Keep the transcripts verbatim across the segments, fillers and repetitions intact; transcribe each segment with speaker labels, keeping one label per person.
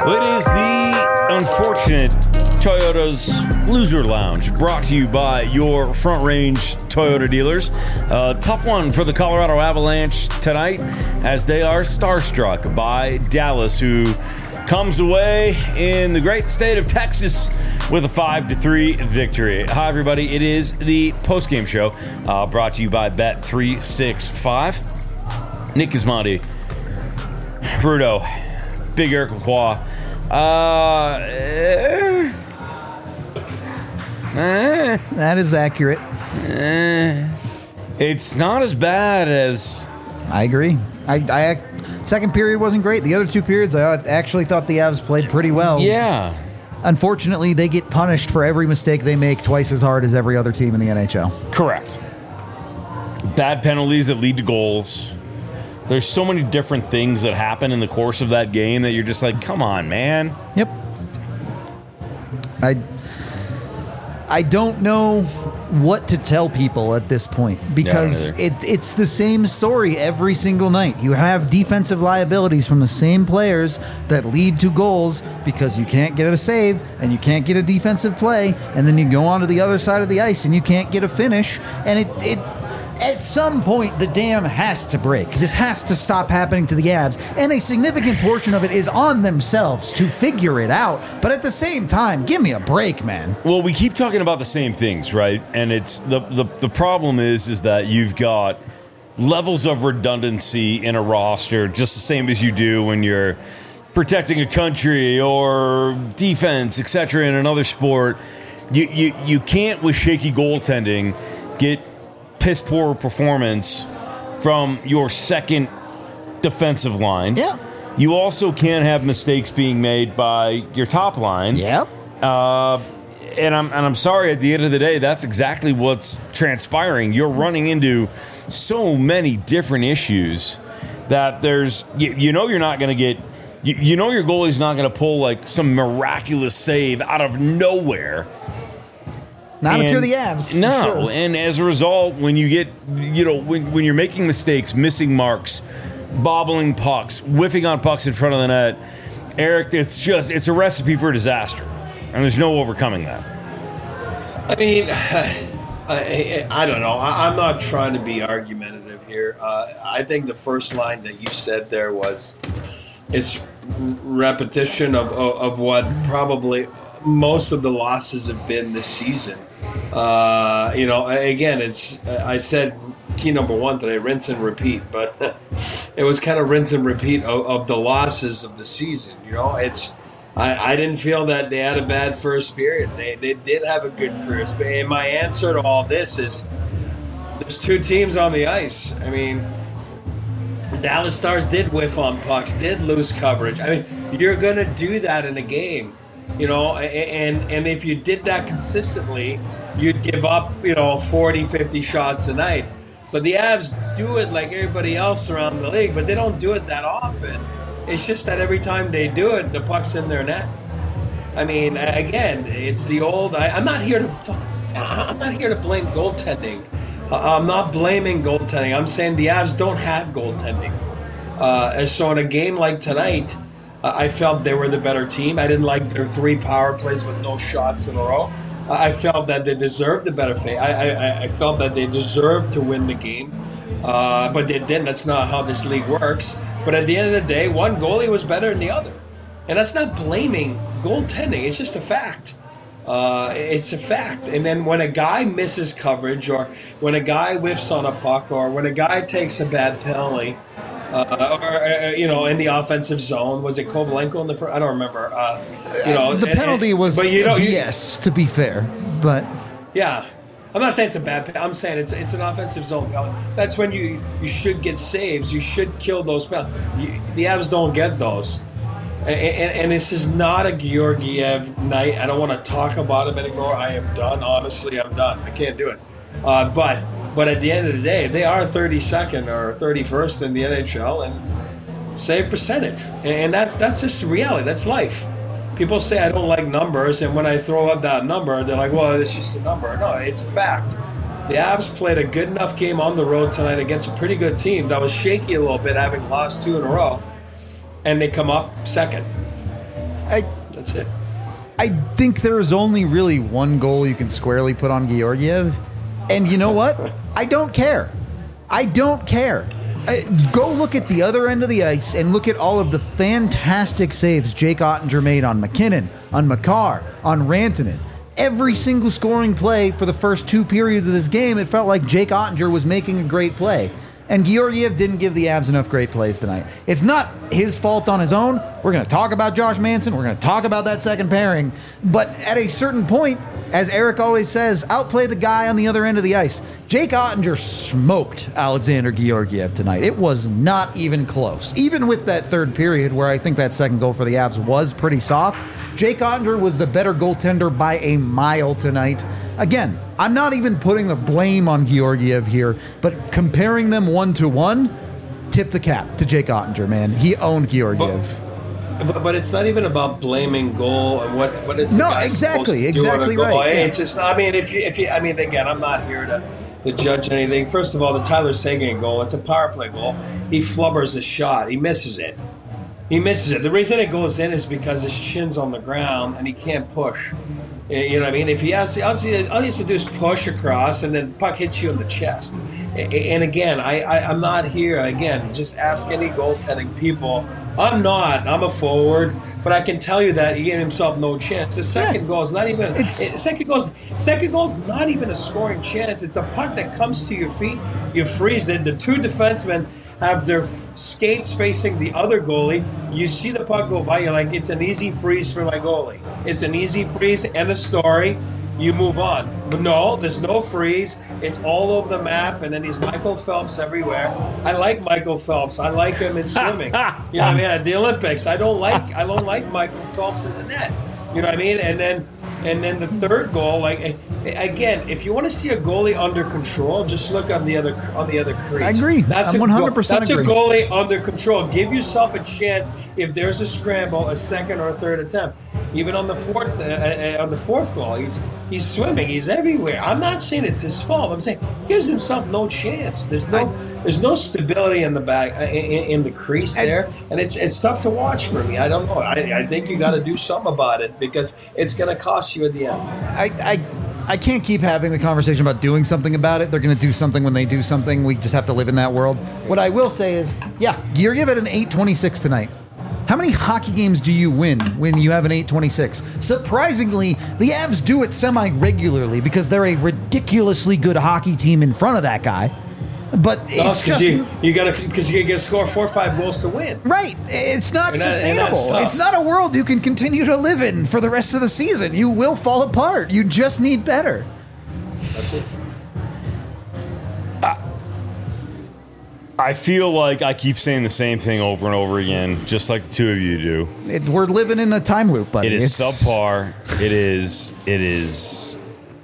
Speaker 1: Well, it is the unfortunate Toyota's Loser Lounge, brought to you by your Front Range Toyota dealers. Uh, tough one for the Colorado Avalanche tonight, as they are starstruck by Dallas, who comes away in the great state of Texas with a five to three victory. Hi, everybody. It is the postgame show, uh, brought to you by Bet three sixty-five. Nick Gismondi, Rudo, Big Eric Lacroix. Uh, eh,
Speaker 2: eh, that is accurate.
Speaker 1: Eh, it's not as bad as...
Speaker 2: I agree. I, I second period wasn't great. The other two periods, I actually thought the Avs played pretty well.
Speaker 1: Yeah.
Speaker 2: Unfortunately, they get punished for every mistake they make twice as hard as every other team in the N H L.
Speaker 1: Correct. Bad penalties that lead to goals. There's so many different things that happen in the course of that game that you're just like, come on, man.
Speaker 2: Yep. I I don't know what to tell people at this point, because
Speaker 1: Yeah,
Speaker 2: it, it's the same story every single night. You have defensive liabilities from the same players that lead to goals because you can't get a save and you can't get a defensive play, and then you go on to the other side of the ice and you can't get a finish, and it... it at some point, the dam has to break. This has to stop happening to the Avs, and a significant portion of it is on themselves to figure it out. But at the same time, give me a break, man.
Speaker 1: Well, we keep talking about the same things, right? And it's the the, the problem is is that you've got levels of redundancy in a roster, just the same as you do when you're protecting a country or defense, et cetera, in another sport. You you you can't, with shaky goaltending, get piss poor performance from your second defensive line.
Speaker 2: Yeah.
Speaker 1: You also can't have mistakes being made by your top line.
Speaker 2: Yep.
Speaker 1: Uh, and I'm and I'm sorry, at the end of the day, that's exactly what's transpiring. You're running into so many different issues that there's you, you know you're not going to get you, you know your goalie's not going to pull like some miraculous save out of nowhere.
Speaker 2: Not
Speaker 1: and
Speaker 2: if you're the Avs.
Speaker 1: No,
Speaker 2: sure.
Speaker 1: And as a result, when you get, you know, when, when you're making mistakes, missing marks, bobbling pucks, whiffing on pucks in front of the net, Eric, it's just, it's a recipe for disaster. And there's no overcoming that.
Speaker 3: I mean, I, I don't know. I, I'm not trying to be argumentative here. Uh, I think the first line that you said there was, it's repetition of, of, of what probably most of the losses have been this season. Uh, you know, again, it's I said key number one today, rinse and repeat, but it was kind of rinse and repeat of, of the losses of the season. You know, it's I, I didn't feel that they had a bad first period. They they did have a good first period. And my answer to all this is there's two teams on the ice. I mean, the Dallas Stars did whiff on pucks, did lose coverage. I mean, you're going to do that in a game. You know, and and if you did that consistently, you'd give up, you know, forty, fifty shots a night. So the Avs do it like everybody else around the league, but they don't do it that often. It's just that every time they do it, the puck's in their net. I mean, again, it's the old. I, I'm not here to. I'm not here to blame goaltending. I'm not blaming goaltending. I'm saying the Avs don't have goaltending. Uh, and so in a game like tonight, I felt they were the better team. I didn't like their three power plays with no shots in a row. I felt that they deserved the better fate. I, I, I felt that they deserved to win the game, uh, but they didn't. That's not how this league works. But at the end of the day, one goalie was better than the other. And that's not blaming goaltending. It's just a fact. Uh, it's a fact. And then when a guy misses coverage, or when a guy whiffs on a puck, or when a guy takes a bad penalty, Uh, or, uh, you know, in the offensive zone. Was it Kovalenko in the first? I don't remember. Uh, you know,
Speaker 2: the
Speaker 3: and,
Speaker 2: penalty
Speaker 3: and,
Speaker 2: was
Speaker 3: but you know,
Speaker 2: B S, to be fair. But
Speaker 3: yeah, I'm not saying it's a bad penalty. I'm saying it's it's an offensive zone penalty. That's when you, you should get saves. You should kill those penalties. You, the Avs don't get those. And, and, and this is not a Georgiev night. I don't want to talk about him anymore. I am done. Honestly, I'm done. I can't do it. Uh, but but at the end of the day, they are thirty-second or thirty-first in the N H L and save percentage. And that's that's just reality. That's life. People say I don't like numbers, and when I throw up that number, they're like, well, it's just a number. No, it's a fact. The Avs played a good enough game on the road tonight against a pretty good team that was shaky a little bit, having lost two in a row, and they come up second.
Speaker 2: I,
Speaker 3: That's it.
Speaker 2: I think there is only really one goal you can squarely put on Georgiev. And you know what? I don't care. I don't care. I, go look at the other end of the ice and look at all of the fantastic saves Jake Ottinger made on McKinnon, on Makar, on Rantanen. Every single scoring play for the first two periods of this game, it felt like Jake Ottinger was making a great play. And Georgiev didn't give the Avs enough great plays tonight. It's not his fault on his own. We're going to talk about Josh Manson. We're going to talk about that second pairing. But at a certain point, as Eric always says, outplay the guy on the other end of the ice. Jake Ottinger smoked Alexander Georgiev tonight. It was not even close. Even with that third period where I think that second goal for the Avs was pretty soft, Jake Ottinger was the better goaltender by a mile tonight. Again, I'm not even putting the blame on Georgiev here, but comparing them one to one, tip the cap to Jake Ottinger, man. He owned Georgiev.
Speaker 3: But, but, but it's not even about blaming goal and what what it's
Speaker 2: no exactly exactly right.
Speaker 3: Yeah. It's just I mean if you if you I mean again I'm not here to, to judge anything. First of all, the Tyler Seguin goal, it's a power play goal. He flubbers a shot. He misses it. He misses it. The reason it goes in is because his chin's on the ground and he can't push. You know what I mean? If he has, all he has to do is push across, and then puck hits you in the chest. And again, I, I I'm not here. Again, just ask any goaltending people. I'm not. I'm a forward, but I can tell you that he gave himself no chance. The second yeah. goal is not even. It's, second goal. Second goal is not even a scoring chance. It's a puck that comes to your feet. You freeze it. The two defensemen have their skates facing the other goalie. You see the puck go by, you're like, it's an easy freeze for my goalie. It's an easy freeze, end of story. You move on. But no, there's no freeze. It's all over the map, and then he's Michael Phelps everywhere. I like Michael Phelps. I like him in swimming. You know what I mean? At the Olympics, I don't like I don't like Michael Phelps in the net. You know what I mean? And then and then the third goal, like again, if you want to see a goalie under control, just look on the other on the other crease.
Speaker 2: I agree.
Speaker 3: That's
Speaker 2: I'm one hundred percent
Speaker 3: That's
Speaker 2: agree.
Speaker 3: a goalie under control. Give yourself a chance if there's a scramble, a second or a third attempt. Even on the fourth, uh, uh, on the fourth goal, he's he's swimming. He's everywhere. I'm not saying it's his fault. I'm saying he gives himself no chance. There's no I, there's no stability in the back uh, in, in the crease I, there, and it's it's tough to watch for me. I don't know. I, I think you got to do something about it because it's going to cost you at the end.
Speaker 2: I. I I can't keep having the conversation about doing something about it. They're going to do something when they do something. We just have to live in that world. What I will say is, yeah, Georgiev at an eight twenty-six tonight. How many hockey games do you win when you have an eight twenty-six? Surprisingly, the Avs do it semi-regularly because they're a ridiculously good hockey team in front of that guy. But it's
Speaker 3: no,
Speaker 2: just
Speaker 3: you, you gotta because you gotta score four or five goals to win.
Speaker 2: Right. It's not
Speaker 3: and that,
Speaker 2: sustainable. It's not a world you can continue to live in for the rest of the season. You will fall apart. You just need better.
Speaker 3: That's it.
Speaker 1: I, I feel like I keep saying the same thing over and over again, just like the two of you do.
Speaker 2: It, we're living in a time loop, buddy.
Speaker 1: It is
Speaker 2: it's,
Speaker 1: subpar. It is. It is.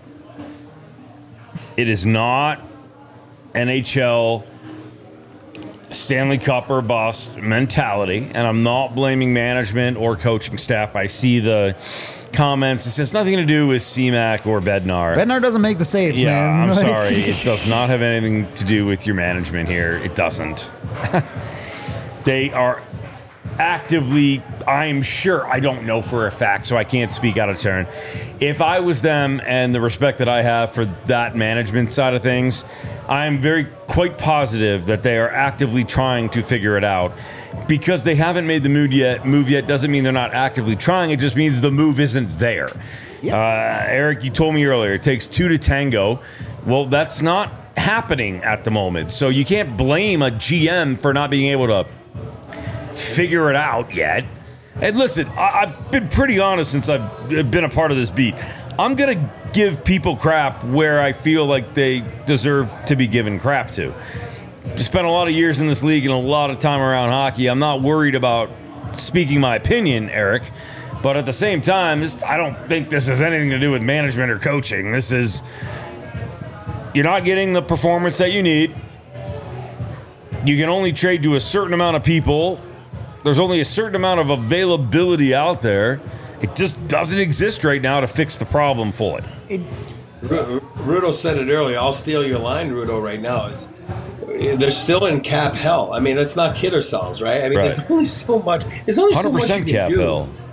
Speaker 1: It is not N H L Stanley Cup or bust mentality, and I'm not blaming management or coaching staff. I see the comments. It has nothing to do with C MAC or Bednar.
Speaker 2: Bednar doesn't make the saves,
Speaker 1: yeah,
Speaker 2: man.
Speaker 1: I'm sorry. It does not have anything to do with your management here. It doesn't. They are actively, I'm sure, I don't know for a fact, so I can't speak out of turn. If I was them and the respect that I have for that management side of things, I'm very quite positive that they are actively trying to figure it out. Because they haven't made the move yet, move yet doesn't mean they're not actively trying. It just means the move isn't there. Yep. Uh, Eric, you told me earlier, it takes two to tango. Well, that's not happening at the moment. So you can't blame a G M for not being able to figure it out yet. And listen, I, I've been pretty honest since I've been a part of this beat. I'm going to give people crap where I feel like they deserve to be given crap to. Spent a lot of years in this league and a lot of time around hockey. I'm not worried about speaking my opinion, Eric. But at the same time, this, I don't think this has anything to do with management or coaching. This is, you're not getting the performance that you need. You can only trade to a certain amount of people. There's only a certain amount of availability out there. It just doesn't exist right now to fix the problem fully. It,
Speaker 3: Rudo said it earlier. I'll steal your line, Rudo, right now. Is they're still in cap hell. I mean, let's not kid ourselves, right? I mean, right. there's only so much. There's only so much you can
Speaker 1: cap
Speaker 3: do.
Speaker 1: hell.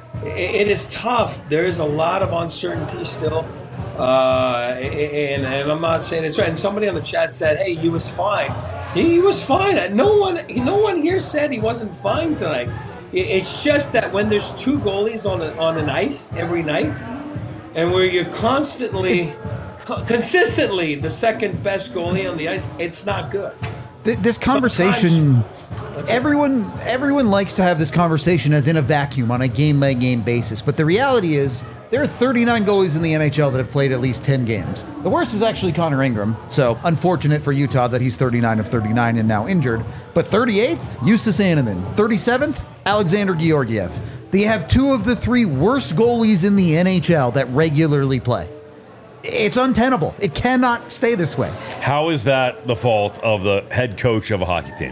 Speaker 3: it, it is tough. There is a lot of uncertainty still. Uh, and, and I'm not saying it's right. And somebody on the chat said, hey, he was fine. He, he was fine. No one, no one here said he wasn't fine tonight. It's just that when there's two goalies on, a, on an ice every night, and where you're constantly, co- consistently the second best goalie on the ice, it's not good.
Speaker 2: This conversation, everyone, everyone likes to have this conversation as in a vacuum on a game-by-game basis. But the reality is, there are thirty-nine goalies in the N H L that have played at least ten games. The worst is actually Connor Ingram, so unfortunate for Utah that he's thirty-nine of thirty-nine and now injured. But thirty-eighth, Justus Annunen. thirty-seventh, Alexander Georgiev. They have two of the three worst goalies in the N H L that regularly play. It's untenable. It cannot stay this way.
Speaker 1: How is that the fault of the head coach of a hockey team?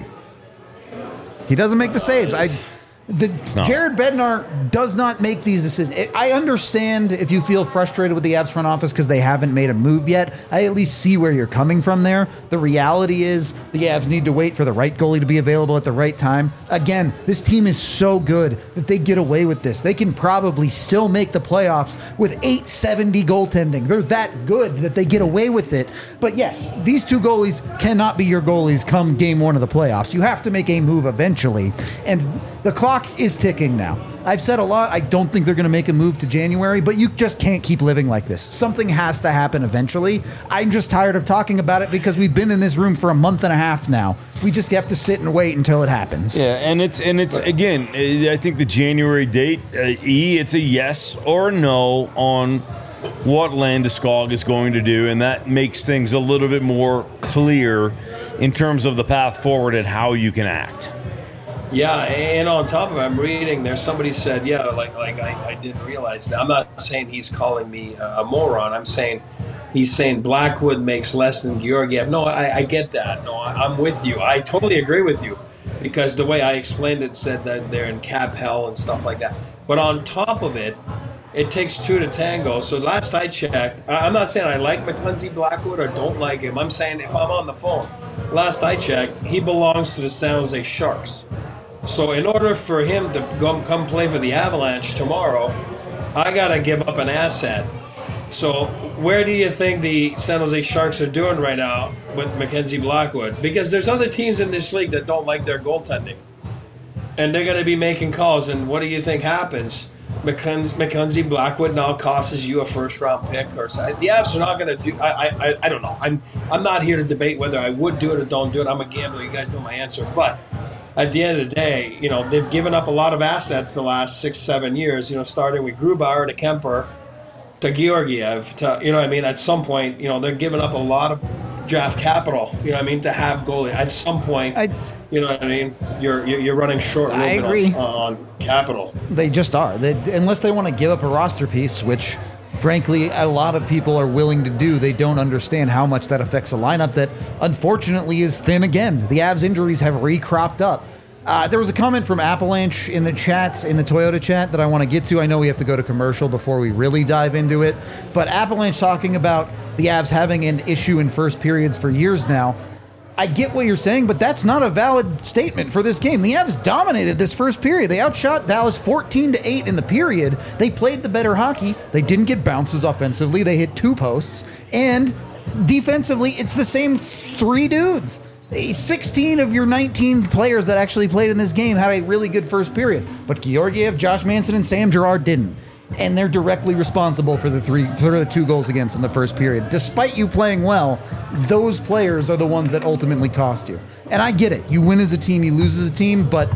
Speaker 2: He doesn't make the saves. I... The, Jared Bednar does not make these decisions. I understand if you feel frustrated with the Avs front office because they haven't made a move yet. I at least see where you're coming from there. The reality is the Avs need to wait for the right goalie to be available at the right time. Again, this team is so good that they get away with this. They can probably still make the playoffs with eight seventy goaltending. They're that good that they get away with it. But yes, these two goalies cannot be your goalies come game one of the playoffs. You have to make a move eventually. And the clock is ticking now. I've said a lot. I don't think they're going to make a move to January, but you just can't keep living like this. Something has to happen eventually. I'm just tired of talking about it because we've been in this room for a month and a half now. We just have to sit and wait until it happens.
Speaker 1: Yeah, and it's and it's again, I think the January date, uh, E, it's a yes or a no on what Landeskog is going to do, and that makes things a little bit more clear in terms of the path forward and how you can act.
Speaker 3: Yeah, and on top of it, I'm reading there, somebody said, yeah, like like I, I didn't realize that. I'm not saying he's calling me a, a moron. I'm saying he's saying Blackwood makes less than Georgiev. No, I, I get that. No, I, I'm with you. I totally agree with you because the way I explained it said that they're in cap hell and stuff like that. But on top of it, it takes two to tango. So last I checked, I'm not saying I like Mackenzie Blackwood or don't like him. I'm saying if I'm on the phone, last I checked, he belongs to the San Jose Sharks. So in order for him to go, come play for the Avalanche tomorrow, I got to give up an asset. So where do you think the San Jose Sharks are doing right now with Mackenzie Blackwood? Because there's other teams in this league that don't like their goaltending. And they're going to be making calls. And what do you think happens? Mackenzie Blackwood now costs you a first-round pick. Or so. The Avs are not going to do. I, I I don't know. I'm I'm not here to debate whether I would do it or don't do it. I'm a gambler. You guys know my answer. But at the end of the day, you know, they've given up a lot of assets the last six, seven years, you know, starting with Grubauer to Kemper to Georgiev to, you know what I mean? At some point, you know, they're giving up a lot of draft capital, you know what I mean, to have goalie. At some point, I, you know what I mean? You're you're running short a little bit on, on capital.
Speaker 2: They just are. They, unless they want to give up a roster piece, which frankly, a lot of people are willing to do. They don't understand how much that affects a lineup that, unfortunately, is thin again. The Avs injuries have re-cropped up. Uh, there was a comment from Avalanche in the chat, in the Toyota chat, that I want to get to. I know we have to go to commercial before we really dive into it. But Avalanche talking about the Avs having an issue in first periods for years now. I get what you're saying, but that's not a valid statement for this game. The Avs dominated this first period. They outshot Dallas fourteen to eight in the period. They played the better hockey. They didn't get bounces offensively. They hit two posts. And defensively, it's the same three dudes. sixteen of your nineteen players that actually played in this game had a really good first period. But Georgiev, Josh Manson, and Sam Girard didn't. And they're directly responsible for the three, for the two goals against in the first period. Despite you playing well, those players are the ones that ultimately cost you. And I get it. You win as a team, you lose as a team, but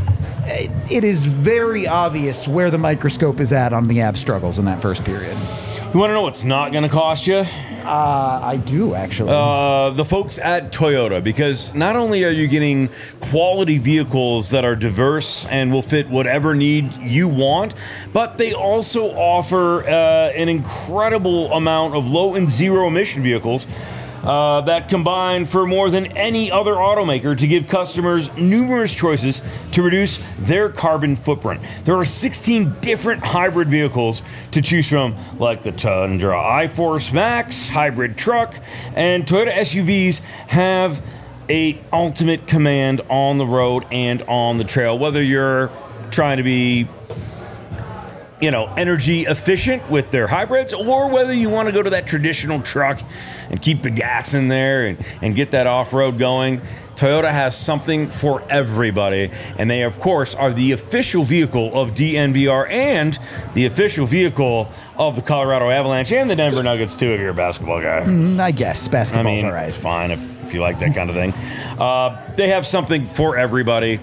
Speaker 2: it is very obvious where the microscope is at on the Avs struggles in that first period.
Speaker 1: You want to know what's not going to cost you?
Speaker 2: Uh, I do, actually.
Speaker 1: Uh, the folks at Toyota, because not only are you getting quality vehicles that are diverse and will fit whatever need you want, but they also offer uh, an incredible amount of low and zero emission vehicles Uh, that combine for more than any other automaker to give customers numerous choices to reduce their carbon footprint. There are sixteen different hybrid vehicles to choose from, like the Tundra iForce Max, hybrid truck, and Toyota S U Vs have a ultimate command on the road and on the trail. Whether you're trying to be you know, energy efficient with their hybrids, or whether you want to go to that traditional truck and keep the gas in there and, and get that off-road going. Toyota has something for everybody, and they, of course, are the official vehicle of D N V R and the official vehicle of the Colorado Avalanche and the Denver Nuggets, too, if you're a basketball guy.
Speaker 2: Mm, I guess. Basketball's
Speaker 1: I mean,
Speaker 2: all right.
Speaker 1: It's fine if, if you like that kind of thing. Uh, they have something for everybody.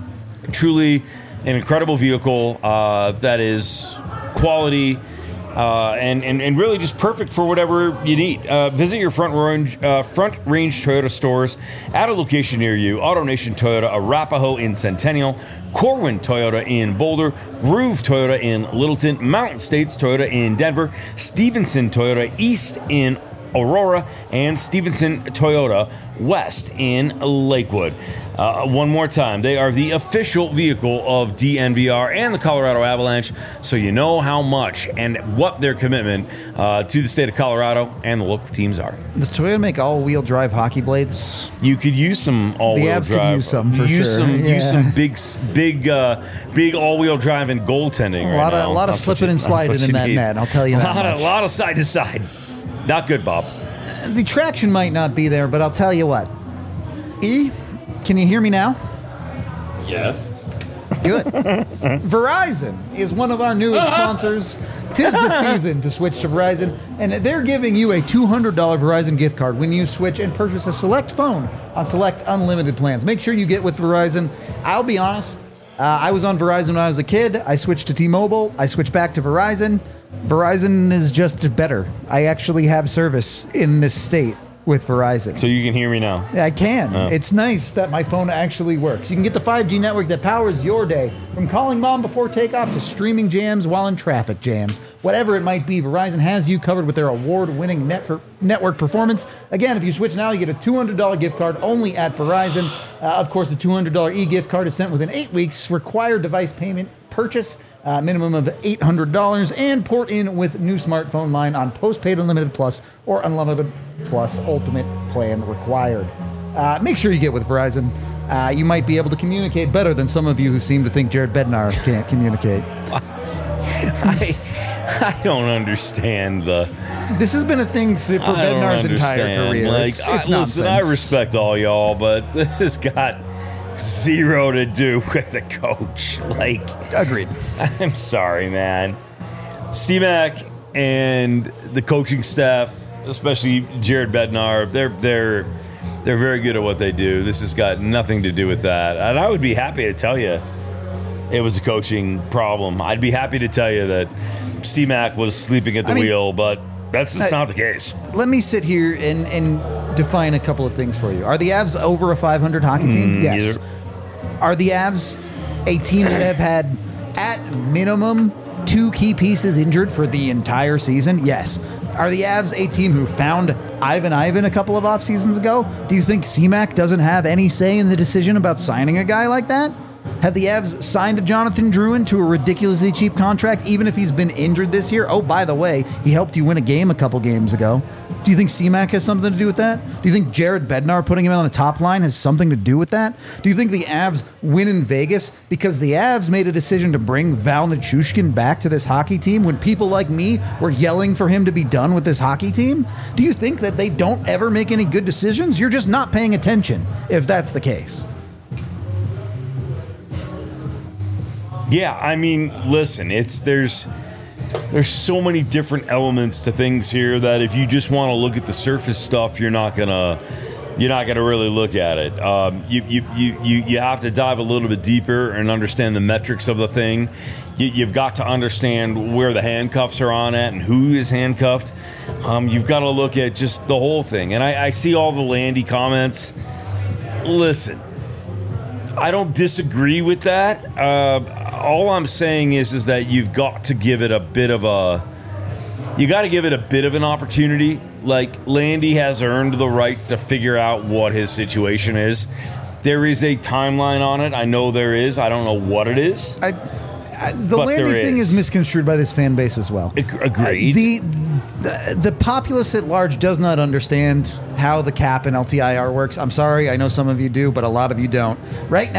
Speaker 1: Truly an incredible vehicle uh, that is quality uh, and, and, and really just perfect for whatever you need. Uh, visit your Front Range, uh, Front Range Toyota stores at a location near you. AutoNation Toyota, Arapahoe in Centennial, Corwin Toyota in Boulder, Groove Toyota in Littleton, Mountain States Toyota in Denver, Stevenson Toyota East in Aurora, and Stevenson Toyota West in Lakewood. Uh, one more time, they are the official vehicle of D N V R and the Colorado Avalanche, so you know how much and what their commitment uh, to the state of Colorado and the local teams are.
Speaker 2: Does Toyota make all-wheel drive hockey blades?
Speaker 1: You could use some all-wheel
Speaker 2: The Avs
Speaker 1: drive.
Speaker 2: could use some for
Speaker 1: use
Speaker 2: sure.
Speaker 1: Some,
Speaker 2: Yeah.
Speaker 1: Use some big, big, uh, big all-wheel drive and goaltending.
Speaker 2: A
Speaker 1: right
Speaker 2: lot of
Speaker 1: now.
Speaker 2: a lot of
Speaker 1: That's what
Speaker 2: slipping
Speaker 1: you-
Speaker 2: and
Speaker 1: that's what
Speaker 2: sliding
Speaker 1: you
Speaker 2: in that
Speaker 1: need.
Speaker 2: net. I'll tell you
Speaker 1: a
Speaker 2: that
Speaker 1: lot
Speaker 2: much.
Speaker 1: Of, a lot of side to side. Not good, Bob.
Speaker 2: The traction might not be there, but I'll tell you what. E, can you hear me now?
Speaker 3: Yes.
Speaker 2: Good. Verizon is one of our newest sponsors. Tis the season to switch to Verizon, and they're giving you a two hundred dollars Verizon gift card when you switch and purchase a select phone on select unlimited plans. Make sure you get with Verizon. I'll be honest, uh, I was on Verizon when I was a kid. I switched to T-Mobile. I switched back to Verizon. Verizon is just better. I actually have service in this state with Verizon.
Speaker 1: So you can hear me now.
Speaker 2: I can.
Speaker 1: Oh.
Speaker 2: It's nice that my phone actually works. You can get the five G network that powers your day, from calling mom before takeoff to streaming jams while in traffic jams. Whatever it might be, Verizon has you covered with their award-winning net for network performance. Again, if you switch now, you get a two hundred dollars gift card only at Verizon. Uh, of course, the two hundred dollars e-gift card is sent within eight weeks. Required device payment purchase, uh, minimum of eight hundred dollars, and port in with new smartphone line on postpaid Unlimited Plus or Unlimited Plus Ultimate plan required. Uh, make sure you get with Verizon. Uh, you might be able to communicate better than some of you who seem to think Jared Bednar can't communicate.
Speaker 1: I, I don't understand the.
Speaker 2: This has been a thing for
Speaker 1: I don't
Speaker 2: Bednar's entire
Speaker 1: understand.
Speaker 2: career.
Speaker 1: Like,
Speaker 2: it's,
Speaker 1: I,
Speaker 2: it's
Speaker 1: listen, I
Speaker 2: nonsense.
Speaker 1: respect all y'all, but this has got zero to do with the coach. Like,
Speaker 2: Agreed.
Speaker 1: I'm sorry, man. C-Mac and the coaching staff, especially Jared Bednar, they're they're they're very good at what they do. This has got nothing to do with that. And I would be happy to tell you it was a coaching problem. I'd be happy to tell you that C-Mac was sleeping at the
Speaker 2: I mean,
Speaker 1: wheel, but that's just
Speaker 2: I-
Speaker 1: not the case.
Speaker 2: Let me sit here and, and define a couple of things for you. Are the Avs over a five hundred hockey team?
Speaker 1: Mm,
Speaker 2: yes.
Speaker 1: neither.
Speaker 2: Are the Avs a team that have had, at minimum, two key pieces injured for the entire season? Yes. Are the Avs a team who found Ivan Ivan a couple of off seasons ago? Do you think C-Mac doesn't have any say in the decision about signing a guy like that? Have the Avs signed Jonathan Drouin to a ridiculously cheap contract, even if he's been injured this year? Oh, by the way, he helped you win a game a couple games ago. Do you think C-Mac has something to do with that? Do you think Jared Bednar putting him on the top line has something to do with that? Do you think the Avs win in Vegas because the Avs made a decision to bring Val Nichushkin back to this hockey team when people like me were yelling for him to be done with this hockey team? Do you think that they don't ever make any good decisions? You're just not paying attention if that's the case.
Speaker 1: Yeah, I mean, listen, it's there's there's so many different elements to things here that if you just want to look at the surface stuff, you're not gonna you're not gonna really look at it. Um, you, you you you you have to dive a little bit deeper and understand the metrics of the thing. You, you've got to understand where the handcuffs are on at and who is handcuffed. Um, you've got to look at just the whole thing. And I, I see all the Landy comments. Listen, I don't disagree with that. Uh, all I'm saying is, is that you've got to give it a bit of a, you got to give it a bit of an opportunity. Like, Landy has earned the right to figure out what his situation is. There is a timeline on it. I know there is. I don't know what it is.
Speaker 2: I, I, the
Speaker 1: But
Speaker 2: Landy
Speaker 1: there
Speaker 2: thing
Speaker 1: is.
Speaker 2: is misconstrued by this fan base as well.
Speaker 1: Ag- agreed.
Speaker 2: Uh, the, the the populace at large does not understand how the cap and L T I R works. I'm sorry, I know some of you do, but a lot of you don't. Right now,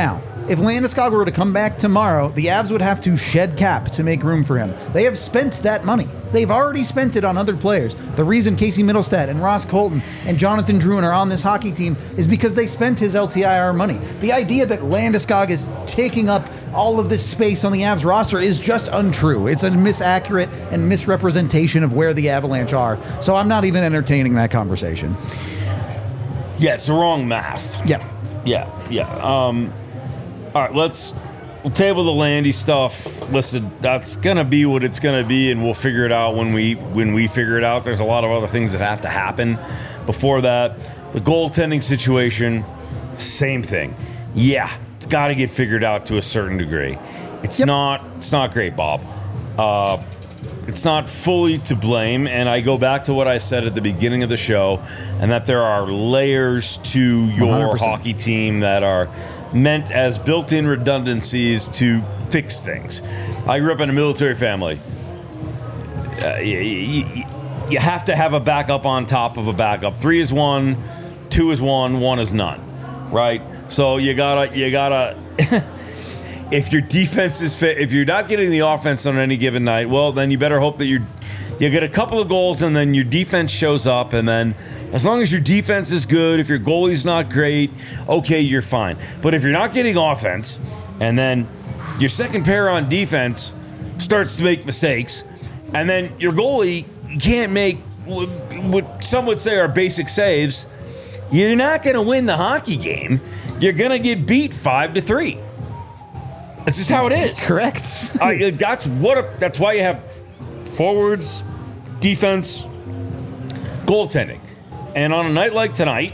Speaker 2: If Landeskog were to come back tomorrow, the Avs would have to shed cap to make room for him. They have spent that money. They've already spent it on other players. The reason Casey Middlestat and Ross Colton and Jonathan Drouin are on this hockey team is because they spent his L T I R money. The idea that Landeskog is taking up all of this space on the Avs roster is just untrue. It's a misaccurate and misrepresentation of where the Avalanche are. So I'm not even entertaining that conversation.
Speaker 1: Yeah, it's the wrong math.
Speaker 2: Yeah.
Speaker 1: Yeah, yeah. Um, all right, let's we'll table the Landy stuff. Listen, that's gonna be what it's gonna be, and we'll figure it out when we when we figure it out. There's a lot of other things that have to happen before that. The goaltending situation, same thing. Yeah, it's got to get figured out to a certain degree. It's yep. not it's not great, Bob. Uh, It's not fully to blame, and I go back to what I said at the beginning of the show, and that there are layers to your one hundred percent hockey team that are meant as built-in redundancies to fix things. I grew up in a military family. Uh, you, you, you have to have a backup on top of a backup. Three is one, two is one, one is none, right? So you gotta, you gotta... If your defense is fit, if you're not getting the offense on any given night, well, then you better hope that you you get a couple of goals and then your defense shows up. And then as long as your defense is good, if your goalie's not great, okay, you're fine. But if you're not getting offense and then your second pair on defense starts to make mistakes and then your goalie can't make what some would say are basic saves, you're not going to win the hockey game. You're going to get beat five to three. That's just how it is.
Speaker 2: Correct.
Speaker 1: uh, that's what. A, that's why you have forwards, defense, goaltending, and on a night like tonight,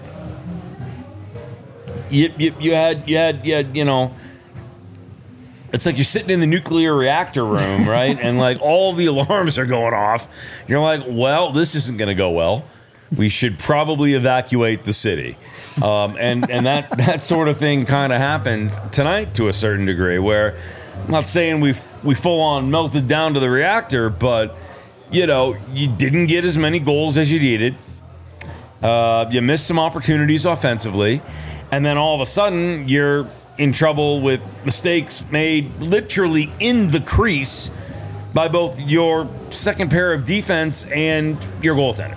Speaker 1: you, you you had you had you had you know, it's like you're sitting in the nuclear reactor room, right? And like all the alarms are going off. You're like, well, this isn't going to go well. We should probably evacuate the city. Um, and and that, that sort of thing kind of happened tonight to a certain degree, where I'm not saying we we full on melted down to the reactor, but, you know, you didn't get as many goals as you needed. Uh, you missed some opportunities offensively. And then all of a sudden, you're in trouble with mistakes made literally in the crease by both your second pair of defense and your goaltender.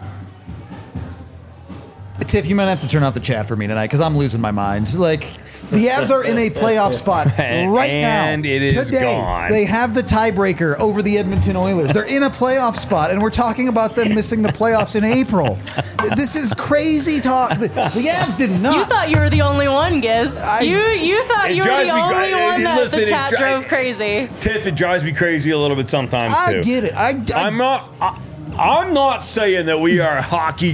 Speaker 2: Tiff, you might have to turn off the chat for me tonight because I'm losing my mind. Like, the Avs are in a playoff spot right
Speaker 1: and,
Speaker 2: now.
Speaker 1: And it is
Speaker 2: Today,
Speaker 1: gone.
Speaker 2: They have the tiebreaker over the Edmonton Oilers. They're in a playoff spot, and we're talking about them missing the playoffs in April. This is crazy talk. The, the Avs did not.
Speaker 4: You thought you were the only one, Giz. I, you you thought you were the only
Speaker 1: cra-
Speaker 4: one that
Speaker 1: listen,
Speaker 4: the chat
Speaker 1: dri-
Speaker 4: drove crazy.
Speaker 1: Tiff, it drives me crazy a little bit sometimes, too.
Speaker 2: I get it. I, I,
Speaker 1: I'm not. I, I'm not saying that we are hockey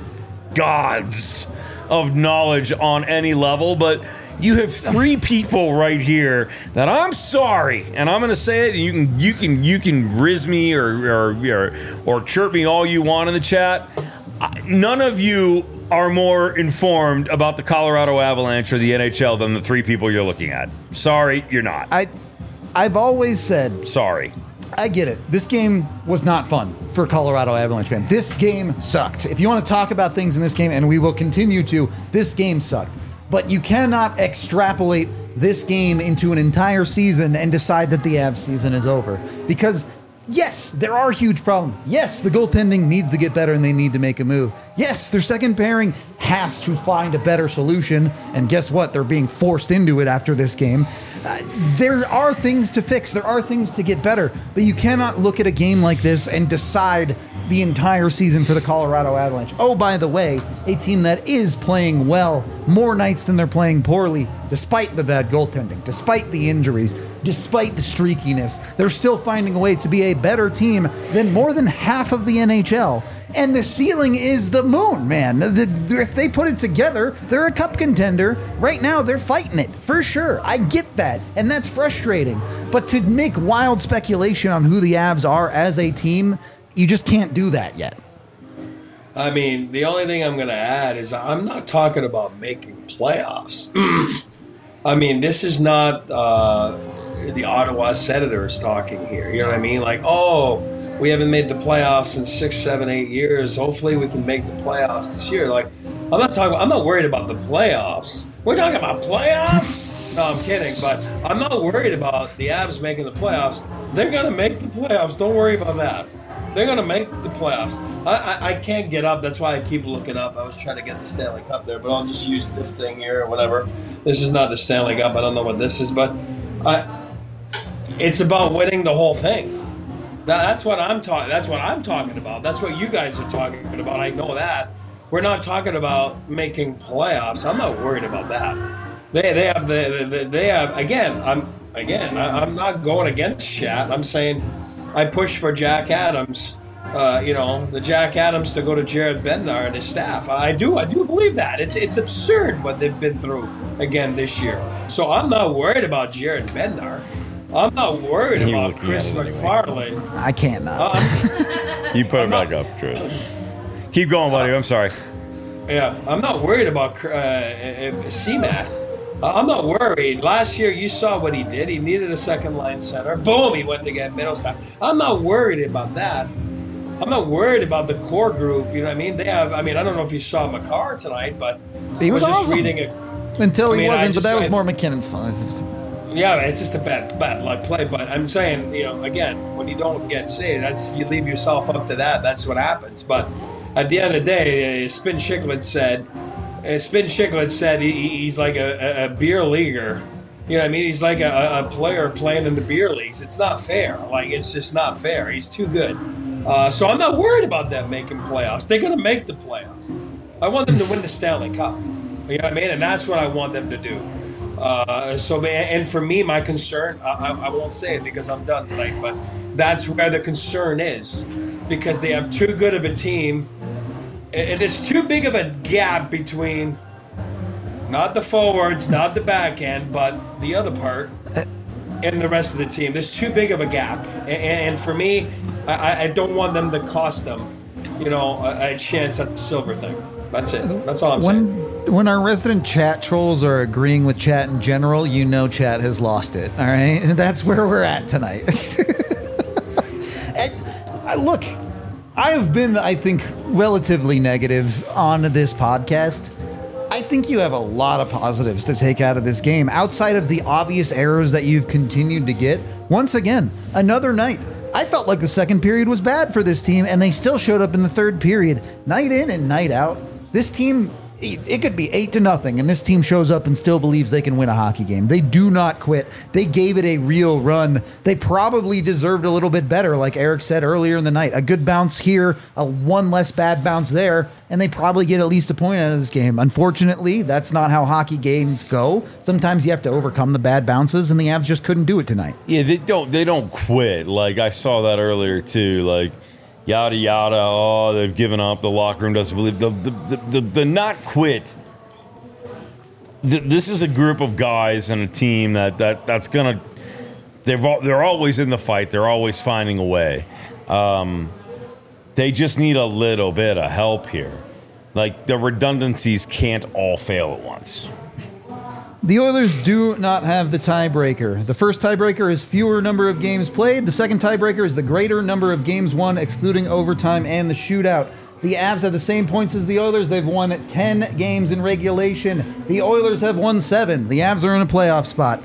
Speaker 1: gods of knowledge on any level, but you have three people right here that I'm sorry, and I'm going to say it. And you can you can you can riz me or or or, or chirp me all you want in the chat. None of you are more informed about the Colorado Avalanche or the N H L than the three people you're looking at. Sorry, you're not.
Speaker 2: I I've always said
Speaker 1: sorry.
Speaker 2: I get it. This game was not fun for Colorado Avalanche fans. This game sucked. If you want to talk about things in this game, and we will continue to, this game sucked. But you cannot extrapolate this game into an entire season and decide that the Avs season is over. Because, yes, there are huge problems. Yes, the goaltending needs to get better and they need to make a move. Yes, their second pairing has to find a better solution. And guess what? They're being forced into it after this game. Uh, there are things to fix. There are things to get better. But you cannot look at a game like this and decide the entire season for the Colorado Avalanche. Oh, by the way, a team that is playing well more nights than they're playing poorly, despite the bad goaltending, despite the injuries, despite the streakiness. They're still finding a way to be a better team than more than half of the N H L. And the ceiling is the moon, man. The, the, if they put it together, they're a cup contender. Right now, they're fighting it, for sure. I get that, and that's frustrating. But to make wild speculation on who the Avs are as a team, you just can't do that yet.
Speaker 3: I mean, the only thing I'm going to add is I'm not talking about making playoffs. I mean, this is not uh, the Ottawa Senators talking here. You know what I mean? Like, oh, we haven't made the playoffs in six, seven, eight years. Hopefully we can make the playoffs this year. Like, I'm not talking, I'm not worried about the playoffs. We're talking about playoffs? No, I'm kidding. But I'm not worried about the Avs making the playoffs. They're going to make the playoffs. Don't worry about that. They're going to make the playoffs. I, I, I can't get up. That's why I keep looking up. I was trying to get the Stanley Cup there, but I'll just use this thing here or whatever. This is not the Stanley Cup. I don't know what this is, but I, it's about winning the whole thing. That, that's what I'm talking. That's what I'm talking about. That's what you guys are talking about. I know that. We're not talking about making playoffs. I'm not worried about that. They they have the, the, the they have again. I'm again. I, I'm not going against Chat. I'm saying I push for Jack Adams. Uh, you know, the Jack Adams to go to Jared Bednar and his staff. I do. I do believe that. It's it's absurd what they've been through again this year. So I'm not worried about Jared Bednar. I'm not worried
Speaker 1: You
Speaker 3: about
Speaker 1: looking
Speaker 3: Chris
Speaker 1: at it anyway.
Speaker 3: McFarlane.
Speaker 2: I can't not.
Speaker 3: Uh,
Speaker 1: You put it back up, Chris. Keep going, buddy. I'm sorry.
Speaker 3: Yeah, I'm not worried about uh, uh, C-Mac. Uh, I'm not worried. Last year, you saw what he did. He needed a second-line center. Boom, he went to get Middlestat. I'm not worried about that. I'm not worried about the core group. You know what I mean? They have. I mean, I don't know if you saw Makar tonight, but
Speaker 2: He was
Speaker 3: I was just
Speaker 2: awesome.
Speaker 3: reading it.
Speaker 2: Until he
Speaker 3: I mean, I
Speaker 2: wasn't, but
Speaker 3: just-
Speaker 2: that was
Speaker 3: I-
Speaker 2: more McKinnon's fault. It's just-
Speaker 3: Yeah, it's just a bad, bad luck play. But I'm saying, you know, again, when you don't get saved, that's you leave yourself up to that. That's what happens. But at the end of the day, uh, Spin Chicklets said, uh, Spin Chicklets said he, he's like a, a, a beer leaguer. You know what I mean? He's like a, a player playing in the beer leagues. It's not fair. Like, it's just not fair. He's too good. Uh, so I'm not worried about them making playoffs. They're going to make the playoffs. I want them to win the Stanley Cup. You know what I mean? And that's what I want them to do. Uh, so, and for me, my concern, I, I won't say it because I'm done tonight, but that's where the concern is. Because they have too good of a team. And it's too big of a gap between not the forwards, not the back end, but the other part and the rest of the team. There's too big of a gap. And, and for me, I, I don't want them to cost them, you know, a, a chance at the silver thing. That's it. That's all I'm
Speaker 2: when
Speaker 3: saying.
Speaker 2: when our resident chat trolls are agreeing with chat in general, you know chat has lost it. All right, that's where we're at tonight. And, I, look, I have been, I think, relatively negative on this podcast. I think you have a lot of positives to take out of this game, outside of the obvious errors that you've continued to get. Once again, another night. I felt like the second period was bad for this team, and they still showed up in the third period, night in and night out. This team, it could be eight to nothing, and this team shows up and still believes they can win a hockey game. They do not quit. They gave it a real run. They probably deserved a little bit better, like Eric said earlier in the night. A good bounce here, a one less bad bounce there, and they probably get at least a point out of this game. Unfortunately, that's not how hockey games go. Sometimes you have to overcome the bad bounces, and the Avs just couldn't do it tonight.
Speaker 1: Yeah, they don't. They don't quit. Like I saw that earlier too. Like yada yada. Oh, they've given up. The locker room doesn't believe the the the, the, the not quit. The, this is a group of guys and a team that that that's gonna. They've al- they're always in the fight. They're always finding a way. Um, they just need a little bit of help here. Like the redundancies can't all fail at once.
Speaker 2: The Oilers do not have the tiebreaker. The first tiebreaker is fewer number of games played. The second tiebreaker is the greater number of games won, excluding overtime and the shootout. The Avs have the same points as the Oilers. They've won ten games in regulation. The Oilers have won seven. The Avs are in a playoff spot.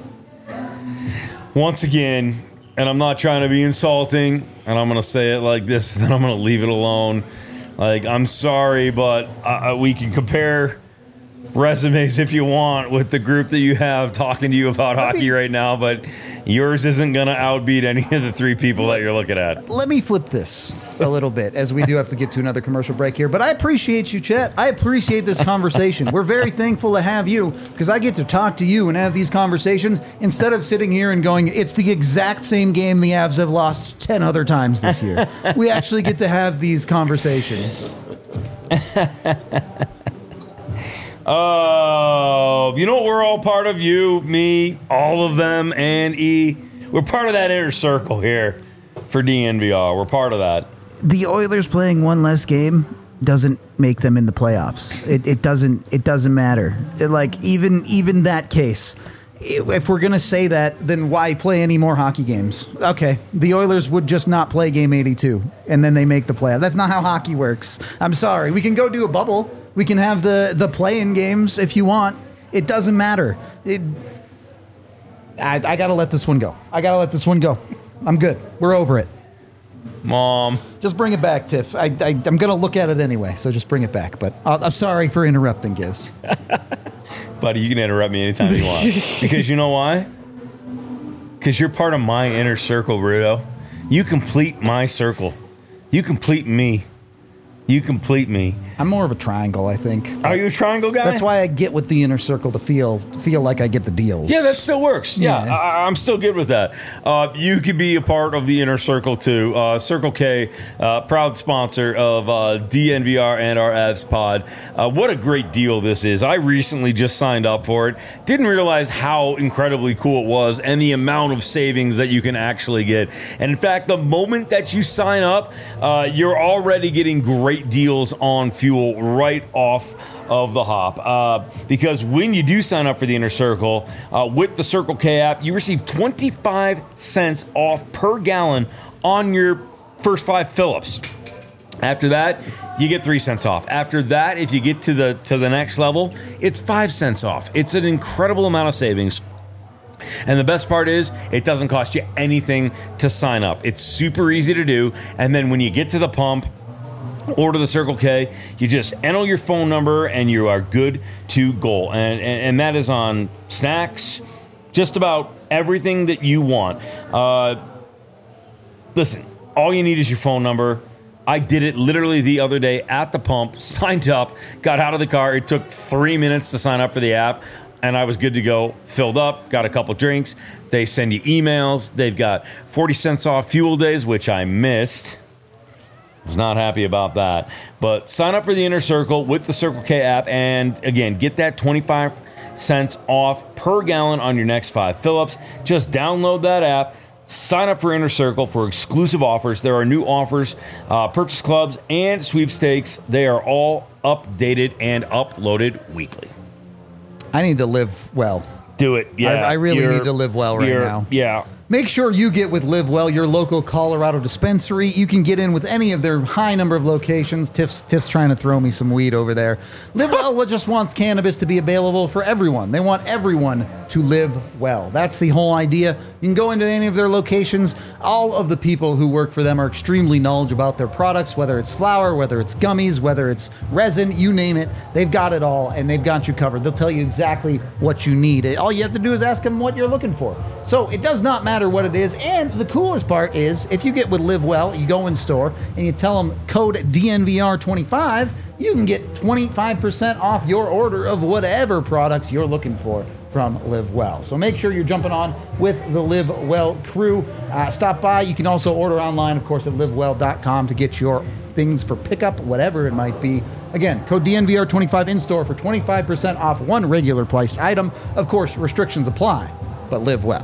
Speaker 1: Once again, and I'm not trying to be insulting, and I'm going to say it like this, then I'm going to leave it alone. Like, I'm sorry, but uh, we can compare resumes if you want with the group that you have talking to you about hockey right now, but yours isn't going to outbeat any of the three people that you're looking at.
Speaker 2: Let me flip this a little bit, as we do have to get to another commercial break here. But I appreciate you, Chet. I appreciate this conversation. We're very thankful to have you, because I get to talk to you and have these conversations instead of sitting here and going, it's the exact same game the Avs have lost ten other times this year. We actually get to have these conversations.
Speaker 1: Oh, you know what? We're all part of. You, me, all of them, and E. We're part of that inner circle here for D N V R. We're part of that.
Speaker 2: The Oilers playing one less game doesn't make them in the playoffs. It, it doesn't. It doesn't matter. It, like even even that case, if we're gonna say that, then why play any more hockey games? Okay, the Oilers would just not play game eighty-two, and then they make the playoffs. That's not how hockey works. I'm sorry. We can go do a bubble. We can have the the play-in games if you want. It doesn't matter. It, I, I got to let this one go. I got to let this one go. I'm good. We're over it.
Speaker 1: Mom.
Speaker 2: Just bring it back, Tiff. I, I, I'm going to look at it anyway, so just bring it back. But uh, I'm sorry for interrupting, Giz.
Speaker 1: Buddy, you can interrupt me anytime you want. Because you know why? Because you're part of my inner circle, Bruto. You complete my circle. You complete me. You complete me.
Speaker 2: I'm more of a triangle, I think.
Speaker 1: Are you a triangle guy?
Speaker 2: That's why I get with the inner circle to feel feel like I get the deals.
Speaker 1: Yeah, that still works. Yeah,
Speaker 2: Yeah.
Speaker 1: I, I'm still good with that. Uh, you could be a part of the inner circle too. Uh, Circle K, uh, proud sponsor of uh, D N V R and our Avs pod. Uh, what a great deal this is. I recently just signed up for it. Didn't realize how incredibly cool it was and the amount of savings that you can actually get. And in fact, the moment that you sign up, uh, you're already getting great deals on fuel right off of the hop. Uh, because when you do sign up for the Inner Circle, uh, with the Circle K app, you receive twenty-five cents off per gallon on your first five fill-ups. After that, you get three cents off. After that, if you get to the to the next level, it's five cents off. It's an incredible amount of savings. And the best part is, it doesn't cost you anything to sign up. It's super easy to do. And then when you get to the pump, order the Circle K, you just enter your phone number and you are good to go. And, and, and that is on snacks, just about everything that you want. Uh, listen, all you need is your phone number. I did it literally the other day at the pump, signed up, got out of the car. It took three minutes to sign up for the app, and I was good to go. Filled up, got a couple drinks. They send you emails. They've got forty cents off fuel days, which I missed. Was not happy about that. But sign up for the Inner Circle with the Circle K app, and again, get that twenty-five cents off per gallon on your next five fill-ups. Just download that app, sign up for Inner Circle for exclusive offers. There are new offers, uh, purchase clubs, and sweepstakes. They are all updated and uploaded weekly.
Speaker 2: I need to live well.
Speaker 1: Do it. Yeah,
Speaker 2: I, I really
Speaker 1: You're-
Speaker 2: need to live well right
Speaker 1: you're-
Speaker 2: now.
Speaker 1: Yeah.
Speaker 2: Make sure you get with Live Well, your local Colorado dispensary. You can get in with any of their high number of locations. Tiff's, Tiff's trying to throw me some weed over there. Live Well just wants cannabis to be available for everyone. They want everyone to live well. That's the whole idea. You can go into any of their locations. All of the people who work for them are extremely knowledgeable about their products, whether it's flour, whether it's gummies, whether it's resin, you name it. They've got it all, and they've got you covered. They'll tell you exactly what you need. All you have to do is ask them what you're looking for. So it does not matter what it is. And the coolest part is, if you get with Live Well, you go in store and you tell them code D N V R twenty-five, you can get twenty-five percent off your order of whatever products you're looking for from Live Well. So make sure you're jumping on with the Live Well crew. Uh, stop by. You can also order online, of course, at live well dot com to get your things for pickup, whatever it might be. Again, code D N V R twenty-five in store for twenty-five percent off one regular priced item. Of course, restrictions apply, but live well.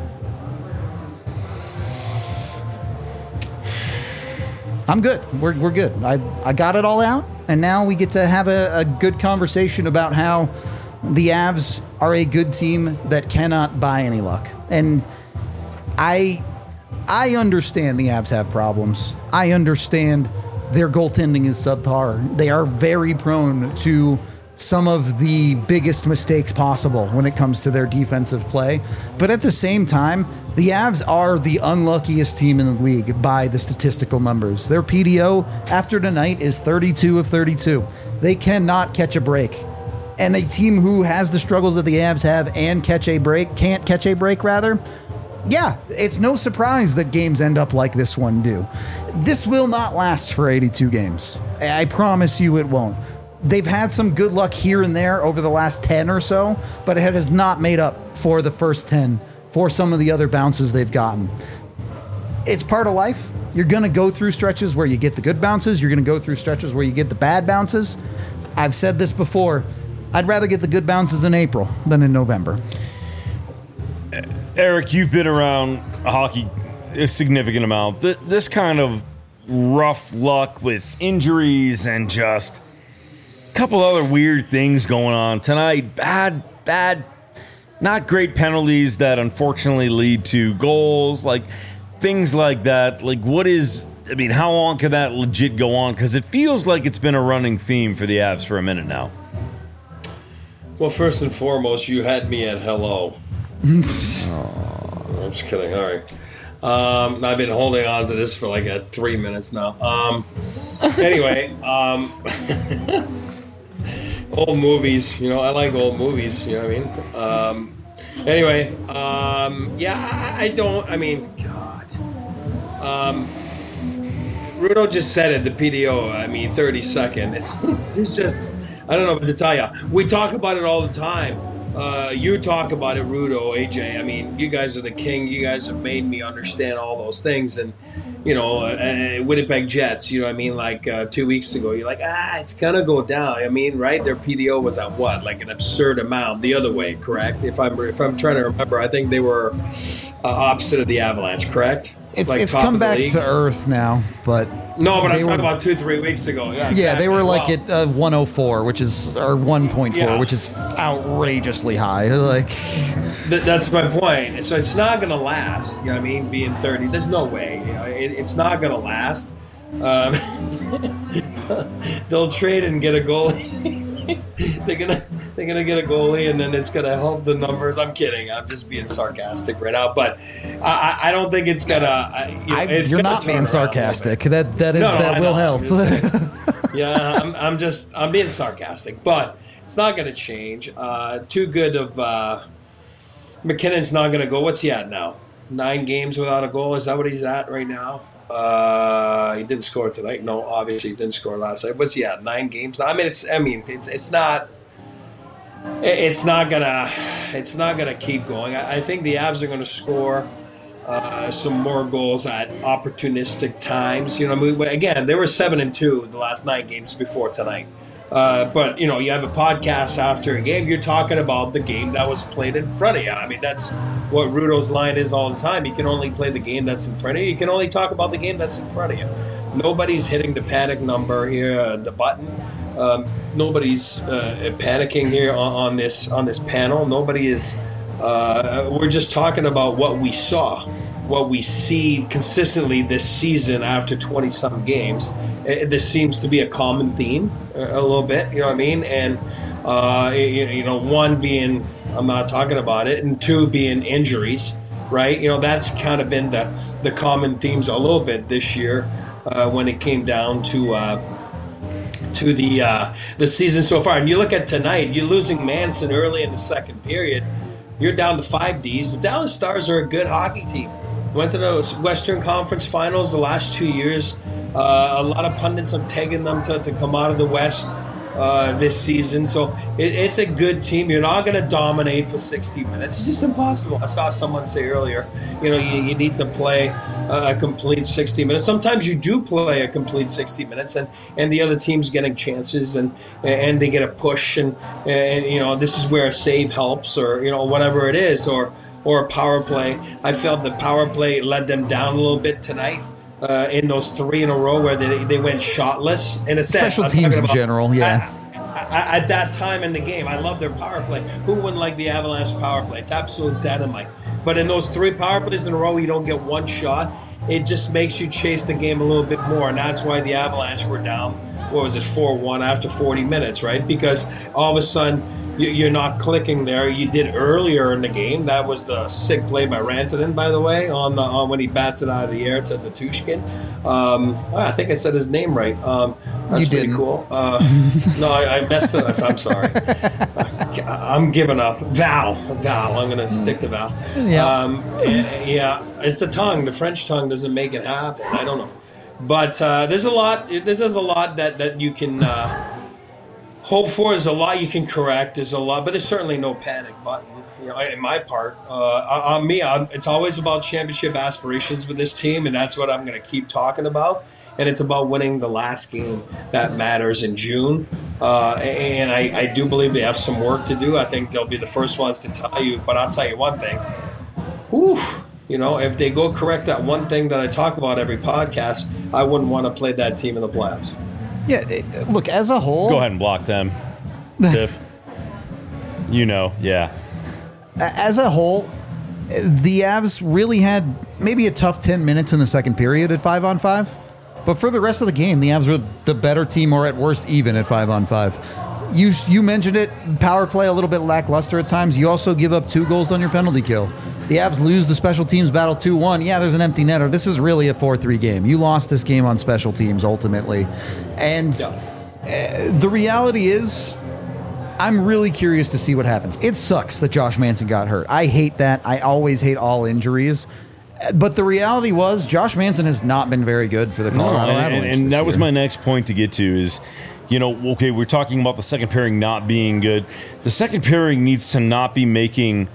Speaker 2: I'm good. We're, we're good. I, I got it all out, and now we get to have a, a good conversation about how the Avs are a good team that cannot buy any luck. And I I understand the Avs have problems. I understand their goaltending is subpar. They are very prone to some of the biggest mistakes possible when it comes to their defensive play. But at the same time, the Avs are the unluckiest team in the league by the statistical numbers. Their P D O after tonight is thirty-two of thirty-two. They cannot catch a break. And a team who has the struggles that the Avs have and catch a break, can't catch a break rather, yeah, it's no surprise that games end up like this one do. This will not last for eighty-two games. I promise you it won't. They've had some good luck here and there over the last ten or so, but it has not made up for the first ten for some of the other bounces they've gotten. It's part of life. You're going to go through stretches where you get the good bounces. You're going to go through stretches where you get the bad bounces. I've said this before. I'd rather get the good bounces in April than in November.
Speaker 1: Eric, you've been around hockey a significant amount. This kind of rough luck with injuries and just a couple other weird things going on tonight. Bad, bad, not great penalties that unfortunately lead to goals. Like things like that. Like what is, I mean, how long can that legit go on? Because it feels like it's been a running theme for the Avs for a minute now.
Speaker 3: Well, first and foremost, you had me at hello. Oh, I'm just kidding. All right. Um, I've been holding on to this for like a three minutes now. Um, anyway, um, old movies. You know, I like old movies. You know what I mean? Um, anyway, um, yeah, I, I don't. I mean, God. Um, Rudo just said it. The P D O. I mean, thirty second. It's it's just. I don't know what to tell you. We talk about it all the time. Uh, you talk about it, Rudo, A J. I mean, you guys are the king. You guys have made me understand all those things. And, you know, uh, Winnipeg Jets, you know what I mean? Like uh, two weeks ago, you're like, ah, it's going to go down. I mean, right? Their P D O was at what? Like an absurd amount the other way, correct? If I'm if I'm trying to remember, I think they were uh, opposite of the Avalanche, correct?
Speaker 2: It's,
Speaker 3: like
Speaker 2: it's come back
Speaker 3: league.
Speaker 2: to earth now, but
Speaker 3: no, but I'm
Speaker 2: were,
Speaker 3: talking about two, three weeks ago. Yeah,
Speaker 2: yeah,
Speaker 3: exactly.
Speaker 2: they were like
Speaker 3: well,
Speaker 2: at uh, one oh four, which is or one point four,
Speaker 3: yeah.
Speaker 2: which is outrageously high. Like
Speaker 3: th- that's my point. So it's not going to last. You know what I mean? Being thirty, there's no way. You know, it, it's not going to last. Um, they'll trade and get a goalie. they're gonna they're gonna get a goalie, and then it's gonna help the numbers. I'm kidding. I'm just being sarcastic right now, but I, I don't think it's gonna. I, you know,
Speaker 2: I,
Speaker 3: it's
Speaker 2: you're
Speaker 3: gonna
Speaker 2: not being sarcastic. That that is
Speaker 3: no, no,
Speaker 2: that
Speaker 3: I
Speaker 2: will
Speaker 3: know.
Speaker 2: help.
Speaker 3: yeah, I'm, I'm just I'm being sarcastic, but it's not gonna change. Uh, too good of uh, McKinnon's not gonna go. What's he at now? Nine games without a goal. Is that what he's at right now? Uh, he didn't score tonight. No, obviously he didn't score last night. What's he at? Nine games. I mean, it's. I mean, it's. It's not. It's not gonna. It's not gonna keep going. I, I think the Avs are gonna score uh, some more goals at opportunistic times. You know, I mean, again, they were seven and two the last nine games before tonight. Uh, but, you know, you have a podcast after a game, you're talking about the game that was played in front of you. I mean, that's what Rudo's line is all the time. You can only play the game that's in front of you. You can only talk about the game that's in front of you. Nobody's hitting the panic number here, uh, the button. Um, nobody's uh, panicking here on, on this on this panel. Nobody is. Uh, we're just talking about what we saw, what we see consistently this season after twenty-some games. It, this seems to be a common theme a, a little bit, you know what I mean? And, uh, you, you know, one being, I'm not talking about it, and two being injuries, right? You know, that's kind of been the, the common themes a little bit this year uh, when it came down to uh, to the uh, the season so far. And you look at tonight, you're losing Manson early in the second period. You're down to five Ds. The Dallas Stars are a good hockey team. Went to the Western Conference Finals the last two years. Uh, a lot of pundits have taken them to, to come out of the West uh, this season. So it, it's a good team. You're not going to dominate for sixty minutes. It's just impossible. I saw someone say earlier, you know, you, you need to play a, a complete sixty minutes. Sometimes you do play a complete sixty minutes, and, and the other team's getting chances, and and they get a push, and, and you know, this is where a save helps, or, you know, whatever it is, or or a power play. I felt the power play let them down a little bit tonight. Uh, in those three in a row where they, they went shotless, in a sense.
Speaker 2: Special teams in general, yeah.
Speaker 3: At, at, at that time in the game, I love their power play. Who wouldn't like the Avalanche power play? It's absolute dynamite. But in those three power plays in a row, you don't get one shot. It just makes you chase the game a little bit more, and that's why the Avalanche were down, what was it, four one after forty minutes, right? Because all of a sudden, you're not clicking there. You did earlier in the game. That was the sick play by Rantanen, by the way, on the on when he bats it out of the air to Natushkin. Um, I think I said his name right. Um, that's
Speaker 2: you
Speaker 3: pretty
Speaker 2: didn't.
Speaker 3: cool. Uh, no, I, I messed it up. I'm sorry. I'm giving up. Val. Val. I'm going to stick to Val.
Speaker 2: Yeah.
Speaker 3: Um, yeah. It's the tongue. The French tongue doesn't make it happen. I don't know. But uh, there's a lot. There's a lot that, that you can... Uh, hope for. There's a lot you can correct. There's a lot, but there's certainly no panic button. You know, in my part, uh, on me, I'm, it's always about championship aspirations with this team, and that's what I'm going to keep talking about. And it's about winning the last game that matters in June. Uh, and I, I do believe they have some work to do. I think they'll be the first ones to tell you. But I'll tell you one thing. Whew, you know, if they go correct that one thing that I talk about every podcast, I wouldn't want to play that team in the playoffs.
Speaker 2: Yeah, it, look, as a whole...
Speaker 1: Go ahead and block them, Tiff. You know, yeah.
Speaker 2: As a whole, the Avs really had maybe a tough ten minutes in the second period at five on five. But for the rest of the game, the Avs were the better team, or at worst even at five on five. You you mentioned it, power play a little bit lackluster at times. You also give up two goals on your penalty kill. The Avs lose the special teams battle two one. Yeah, there's an empty netter. This is really a four three game. You lost this game on special teams ultimately. And yeah. uh, the reality is, I'm really curious to see what happens. It sucks that Josh Manson got hurt. I hate that. I always hate all injuries. But the reality was, Josh Manson has not been very good for the Colorado
Speaker 1: no, and,
Speaker 2: Avalanche.
Speaker 1: And, and that
Speaker 2: year.
Speaker 1: was my next point to get to is, you know, okay, we're talking about the second pairing not being good. The second pairing needs to not be making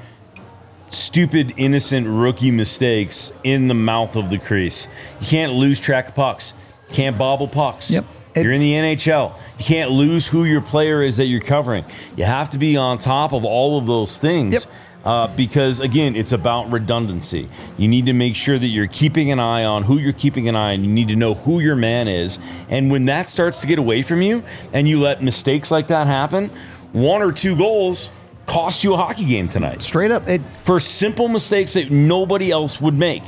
Speaker 1: stupid, innocent rookie mistakes in the mouth of the crease. You can't lose track of pucks. You can't bobble pucks.
Speaker 2: Yep. It,
Speaker 1: you're in the N H L. You can't lose who your player is that you're covering. You have to be on top of all of those things.
Speaker 2: Yep.
Speaker 1: Uh, because, again, it's about redundancy. You need to make sure that you're keeping an eye on who you're keeping an eye on. You need to know who your man is. And when that starts to get away from you and you let mistakes like that happen, one or two goals cost you a hockey game tonight.
Speaker 2: Straight up. It,
Speaker 1: for simple mistakes that nobody else would make.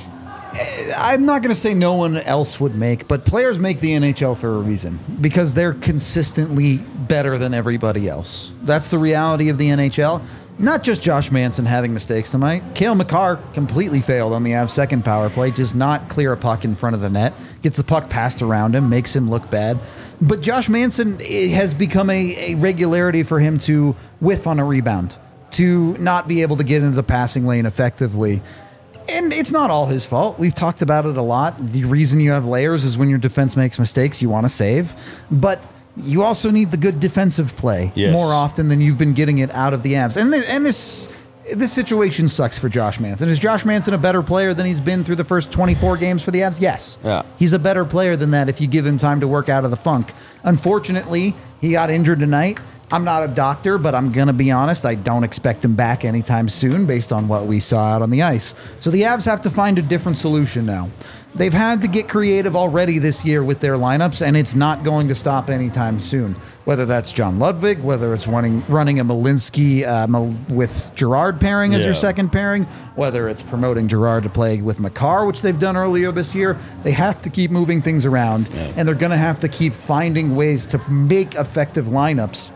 Speaker 2: I'm not going to say no one else would make, but players make the N H L for a reason because they're consistently better than everybody else. That's the reality of the N H L. Not just Josh Manson having mistakes tonight. Cale Makar completely failed on the Avs' second power play, does not clear a puck in front of the net, gets the puck passed around him, makes him look bad. But Josh Manson, it has become a, a regularity for him to whiff on a rebound, to not be able to get into the passing lane effectively. And it's not all his fault. We've talked about it a lot. The reason you have layers is when your defense makes mistakes, you want to save. But you also need the good defensive play
Speaker 1: yes.
Speaker 2: more often than you've been getting it out of the Avs. And, th- and this this situation sucks for Josh Manson. Is Josh Manson a better player than he's been through the first twenty-four games for the Avs? Yes.
Speaker 1: Yeah.
Speaker 2: He's a better player than that if you give him time to work out of the funk. Unfortunately, he got injured tonight. I'm not a doctor, but I'm going to be honest. I don't expect him back anytime soon based on what we saw out on the ice. So the Avs have to find a different solution now. They've had to get creative already this year with their lineups, and it's not going to stop anytime soon. Whether that's John Ludwig, whether it's running running a Malinsky uh, with Girard pairing as
Speaker 1: yeah.
Speaker 2: your second pairing, whether it's promoting Girard to play with Makar, which they've done earlier this year, they have to keep moving things around, yeah. and they're going to have to keep finding ways to make effective lineups.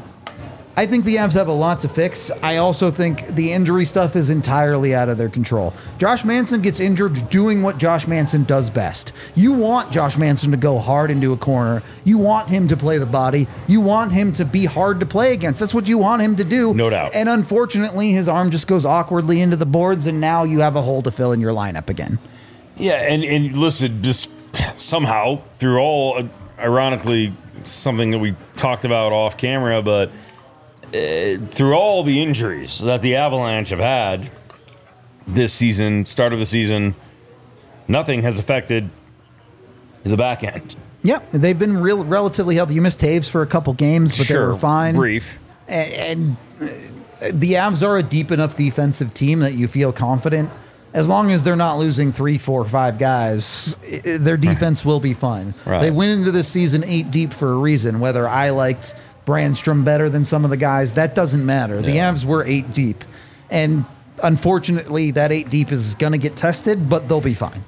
Speaker 2: I think the Avs have a lot to fix. I also think the injury stuff is entirely out of their control. Josh Manson gets injured doing what Josh Manson does best. You want Josh Manson to go hard into a corner. You want him to play the body. You want him to be hard to play against. That's what you want him to do.
Speaker 1: No doubt.
Speaker 2: And unfortunately, his arm just goes awkwardly into the boards, and now you have a hole to fill in your lineup again.
Speaker 1: Yeah, and, and listen, just somehow, through all, ironically, something that we talked about off camera, but Uh, through all the injuries that the Avalanche have had this season, start of the season, nothing has affected the back end.
Speaker 2: Yep, they've been real, relatively healthy. You missed Taves for a couple games, but
Speaker 1: sure,
Speaker 2: they were fine.
Speaker 1: Brief.
Speaker 2: And, and the Avs are a deep enough defensive team that you feel confident. As long as they're not losing three, four, five guys, their defense will be fine.
Speaker 1: Right.
Speaker 2: They went into this season eight deep for a reason. Whether I liked Brandstrom better than some of the guys, that doesn't matter. The
Speaker 1: yeah.
Speaker 2: Avs were eight deep. And unfortunately, that eight deep is going to get tested, but they'll be fine.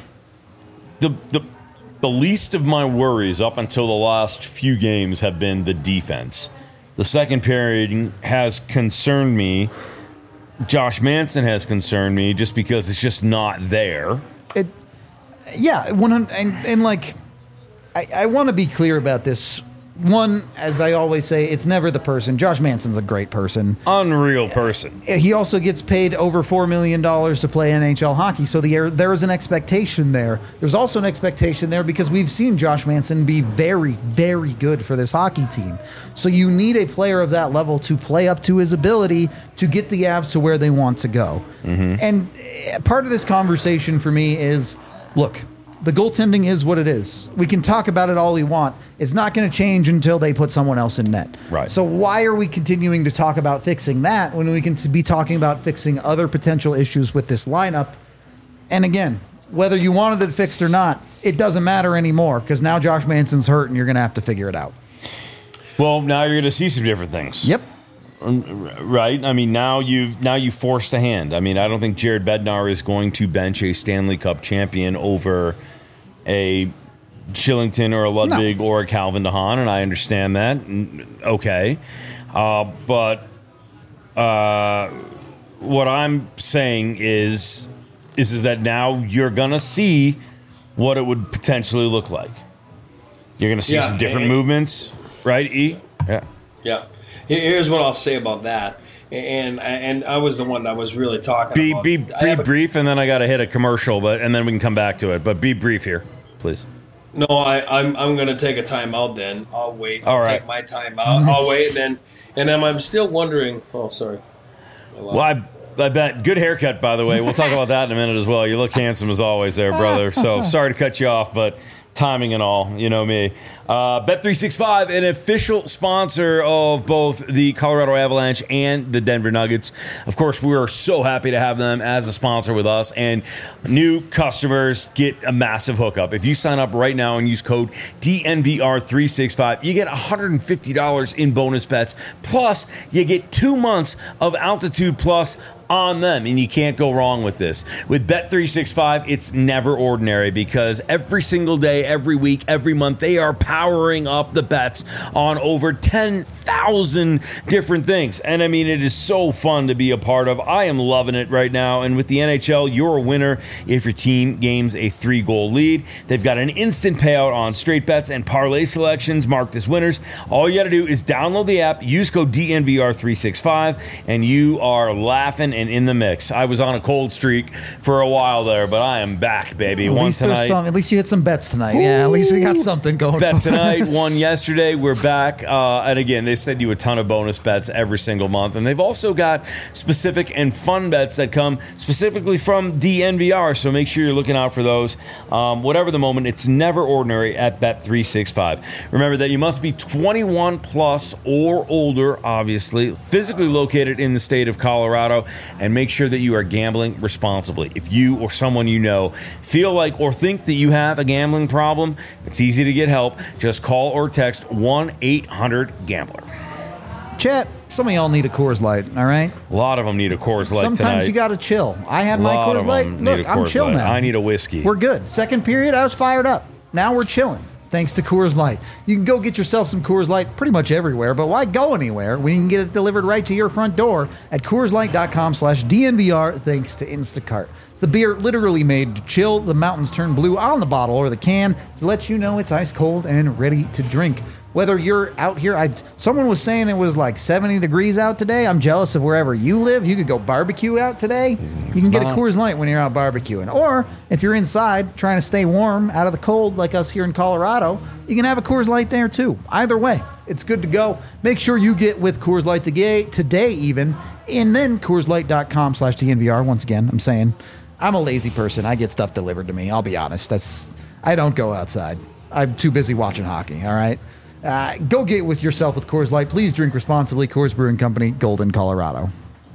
Speaker 1: The, the, the least of my worries up until the last few games have been the defense. The second period has concerned me. Josh Manson has concerned me just because it's just not there.
Speaker 2: It, yeah, one hundred, and, and like, I, I want to be clear about this. One, as I always say, it's never the person. Josh Manson's a great person.
Speaker 1: Unreal person.
Speaker 2: He also gets paid over four million dollars to play N H L hockey, so the, there is an expectation there. There's also an expectation there because we've seen Josh Manson be very, very good for this hockey team. So you need a player of that level to play up to his ability to get the Avs to where they want to go. Mm-hmm. And part of this conversation for me is, look, the goaltending is what it is. We can talk about it all we want. It's not going to change until they put someone else in net.
Speaker 1: Right.
Speaker 2: So why are we continuing to talk about fixing that when we can be talking about fixing other potential issues with this lineup? And again, whether you wanted it fixed or not, it doesn't matter anymore because now Josh Manson's hurt and you're going to have to figure it out.
Speaker 1: Well, now you're going to see some different things.
Speaker 2: Yep.
Speaker 1: Right. I mean, now you've now you forced a hand. I mean, I don't think Jared Bednar is going to bench a Stanley Cup champion over a Shillington or a Ludwig no. or a Calvin DeHaan, and I understand that. Okay. Uh, but uh, what I'm saying is, is, is that now you're going to see what it would potentially look like. You're going to see yeah, some different and, movements, right, E? Yeah.
Speaker 3: Yeah. Here's what I'll say about that. And and I was the one that was really talking
Speaker 1: be,
Speaker 3: about.
Speaker 1: Be, be brief, and then I got to hit a commercial, but and then we can come back to it. But be brief here, please.
Speaker 3: No, I, I'm I'm going to take a time out then. I'll wait. I'll
Speaker 1: All right.
Speaker 3: take my time out. I'll wait, and then, and then I'm still wondering. Oh, sorry.
Speaker 1: Well, I, I bet. Good haircut, by the way. We'll talk about that in a minute as well. You look handsome as always there, brother. So sorry to cut you off, but timing and all, you know me. Uh, Bet three sixty-five, an official sponsor of both the Colorado Avalanche and the Denver Nuggets. Of course, we are so happy to have them as a sponsor with us, and new customers get a massive hookup. If you sign up right now and use code D N V R three sixty-five, you get one hundred fifty dollars in bonus bets, plus you get two months of Altitude Plus on them, and you can't go wrong with this. With Bet three sixty-five, it's never ordinary because every single day, every week, every month, they are powering up the bets on over ten thousand different things. And I mean, it is so fun to be a part of. I am loving it right now. And with the N H L, you're a winner if your team gains a three-goal lead. They've got an instant payout on straight bets and parlay selections marked as winners. All you got to do is download the app, use code D N V R three sixty-five, and you are laughing and in the mix. I was on a cold streak for a while there, but I am back, baby.
Speaker 2: At
Speaker 1: One
Speaker 2: least
Speaker 1: tonight.
Speaker 2: Some, at least you hit some bets tonight. Ooh. Yeah, at least we got something going.
Speaker 1: Bet tonight, one yesterday. We're back. Uh, and again, they send you a ton of bonus bets every single month. And they've also got specific and fun bets that come specifically from D N V R. So make sure you're looking out for those. Um, whatever the moment, it's never ordinary at Bet three sixty-five. Remember that you must be twenty-one plus or older, obviously, physically located in the state of Colorado, and make sure that you are gambling responsibly. If you or someone you know feel like or think that you have a gambling problem, it's easy to get help. Just call or text one eight hundred gambler.
Speaker 2: Chat, some of y'all need a Coors Light, all right?
Speaker 1: A lot of them need a Coors Light
Speaker 2: Sometimes
Speaker 1: tonight.
Speaker 2: you got to chill. I have my Coors Light. Look, I'm chill now.
Speaker 1: I need a whiskey.
Speaker 2: We're good. Second period, I was fired up. Now we're chilling. Thanks to Coors Light. You can go get yourself some Coors Light pretty much everywhere, but why go anywhere when you can get it delivered right to your front door at CoorsLight.com slash DNVR thanks to Instacart. It's the beer literally made to chill the mountains turn blue on the bottle or the can to let you know it's ice cold and ready to drink. Whether you're out here, I someone was saying it was like seventy degrees out today. I'm jealous of wherever you live. You could go barbecue out today. You can get a Coors Light when you're out barbecuing. Or if you're inside trying to stay warm out of the cold like us here in Colorado, you can have a Coors Light there too. Either way, it's good to go. Make sure you get with Coors Light today even, and then CoorsLight.com slash DNVR. Once again, I'm saying I'm a lazy person. I get stuff delivered to me. I'll be honest. That's I don't go outside. I'm too busy watching hockey, all right? Uh, go get with yourself with Coors Light. Please drink responsibly. Coors Brewing Company, Golden, Colorado.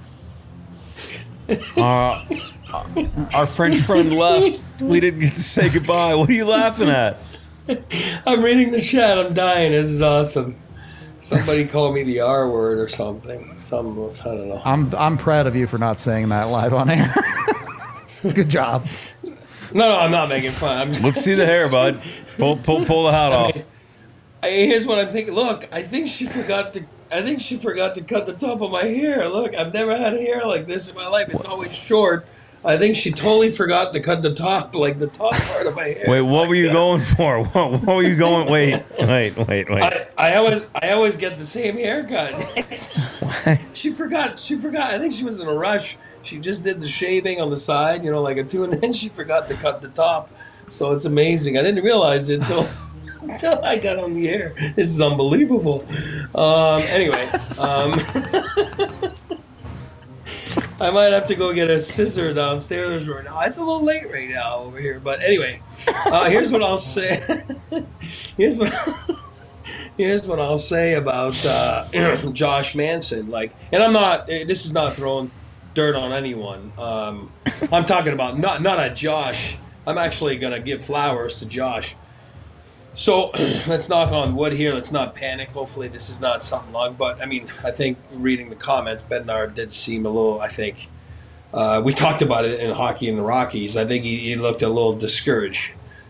Speaker 1: Uh, our French friend left. We didn't get to say goodbye. What are you laughing at?
Speaker 3: I'm reading the chat. I'm dying. This is awesome. Somebody called me the R word or something. Some I don't know.
Speaker 2: I'm I'm proud of you for not saying that live on air. Good job.
Speaker 3: No, no, I'm not making fun. I'm just,
Speaker 1: Let's see the hair, bud. Pull, pull, pull the hat off.
Speaker 3: I, here's what I'm thinking. Look, I think she forgot to. I think she forgot to cut the top of my hair. Look, I've never had hair like this in my life. It's always short. I think she totally forgot to cut the top, like the top part of my hair.
Speaker 1: Wait, what
Speaker 3: like
Speaker 1: were you
Speaker 3: that.
Speaker 1: going for? What, what were you going? Wait, wait, wait, wait.
Speaker 3: I, I always, I always get the same haircut. She forgot. She forgot. I think she was in a rush. She just did the shaving on the side, you know, like a two, and then she forgot to cut the top. So it's amazing. I didn't realize it until. Until I got on the air. This is unbelievable. Um, anyway, um, I might have to go get a scissor downstairs right now. It's a little late right now over here. But anyway, uh, here's what I'll say. here's what here's what I'll say about uh, Josh Manson. Like, and I'm not. This is not throwing dirt on anyone. Um, I'm talking about not not at Josh. I'm actually gonna give flowers to Josh. So let's knock on wood here. Let's not panic. Hopefully this is not something long. But, I mean, I think reading the comments, Bednar did seem a little, I think, uh, we talked about it in Hockey in the Rockies. I think he, he looked a little discouraged.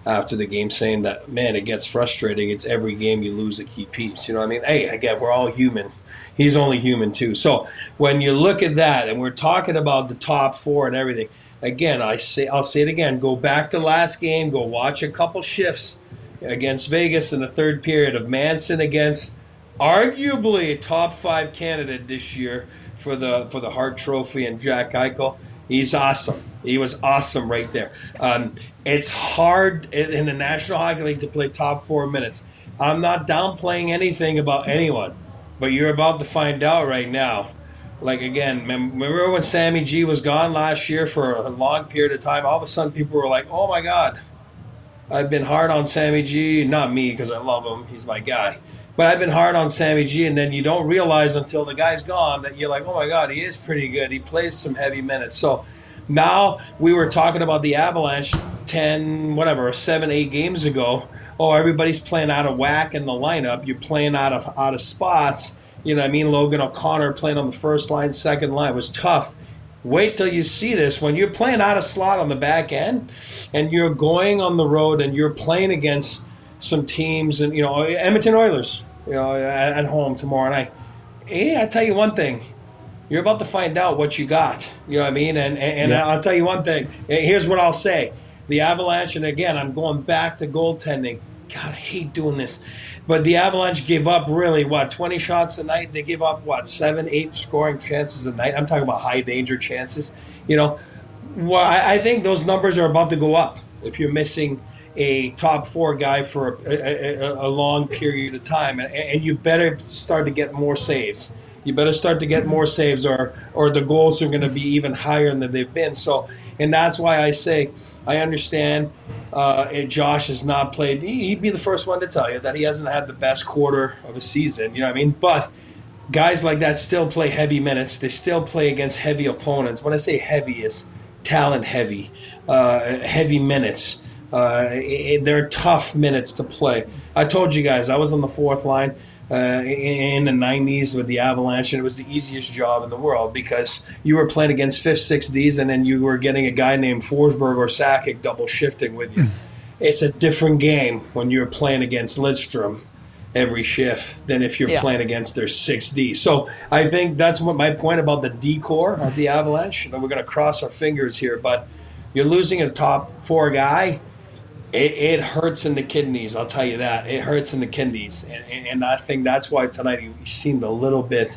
Speaker 3: after the game, saying that, man, it gets frustrating. It's every game you lose a key piece. You know what I mean? Hey, again, we're all humans. He's only human too. So when you look at that, and we're talking about the top four and everything, again, I say, I'll say it again. Go back to last game. Go watch a couple shifts against Vegas in the third period of Manson against arguably a top five candidate this year for the for the Hart Trophy, and Jack Eichel. He's awesome. He was awesome right there. Um, it's hard in in the National Hockey League to play top four minutes. I'm not downplaying anything about anyone, but you're about to find out right now. Like, again, remember when Sammy G was gone last year for a long period of time? All of a sudden people were like, oh, my God, I've been hard on Sammy G. Not me, because I love him. He's my guy. But I've been hard on Sammy G, and then you don't realize until the guy's gone that you're like, oh, my God, he is pretty good. He plays some heavy minutes. So now we were talking about the Avalanche ten, whatever, seven, eight games ago. Oh, everybody's playing out of whack in the lineup. You're playing out of out of spots. You know what I mean? Logan O'Connor playing on the first line, second line. It was tough. Wait till you see this. When you're playing out of slot on the back end and you're going on the road and you're playing against some teams, and, you know, Edmonton Oilers, you know, at, at home tomorrow night. Hey, I tell you one thing. You're about to find out what you got. You know what I mean? And, and, and
Speaker 2: yeah.
Speaker 3: I'll tell you one thing. Here's what I'll say. The Avalanche, and again, I'm going back to goaltending. God, I hate doing this. But the Avalanche gave up really, what, twenty shots a night? They give up, what, seven, eight scoring chances a night? I'm talking about high-danger chances. You know, well, I, I think those numbers are about to go up if you're missing a top four guy for a, a, a long period of time. And, and you better start to get more saves. You better start to get more saves, or or the goals are going to be even higher than they've been. So, and that's why I say I understand uh, Josh has not played. He'd be the first one to tell you that he hasn't had the best quarter of a season. You know what I mean? But guys like that still play heavy minutes. They still play against heavy opponents. When I say heavy, is talent heavy, uh, heavy minutes. Uh, it, they're tough minutes to play. I told you guys I was on the fourth line. Uh, in the nineties with the Avalanche, and it was the easiest job in the world because you were playing against fifth, sixth Ds, and then you were getting a guy named Forsberg or Sakic double shifting with you. Mm. It's a different game when you're playing against Lidstrom every shift than if you're yeah. playing against their six D. So I think that's what my point about the D core of the Avalanche. And we're going to cross our fingers here, but you're losing a top four guy. It, it hurts in the kidneys, I'll tell you that. It hurts in the kidneys. And, and, and I think that's why tonight he seemed a little bit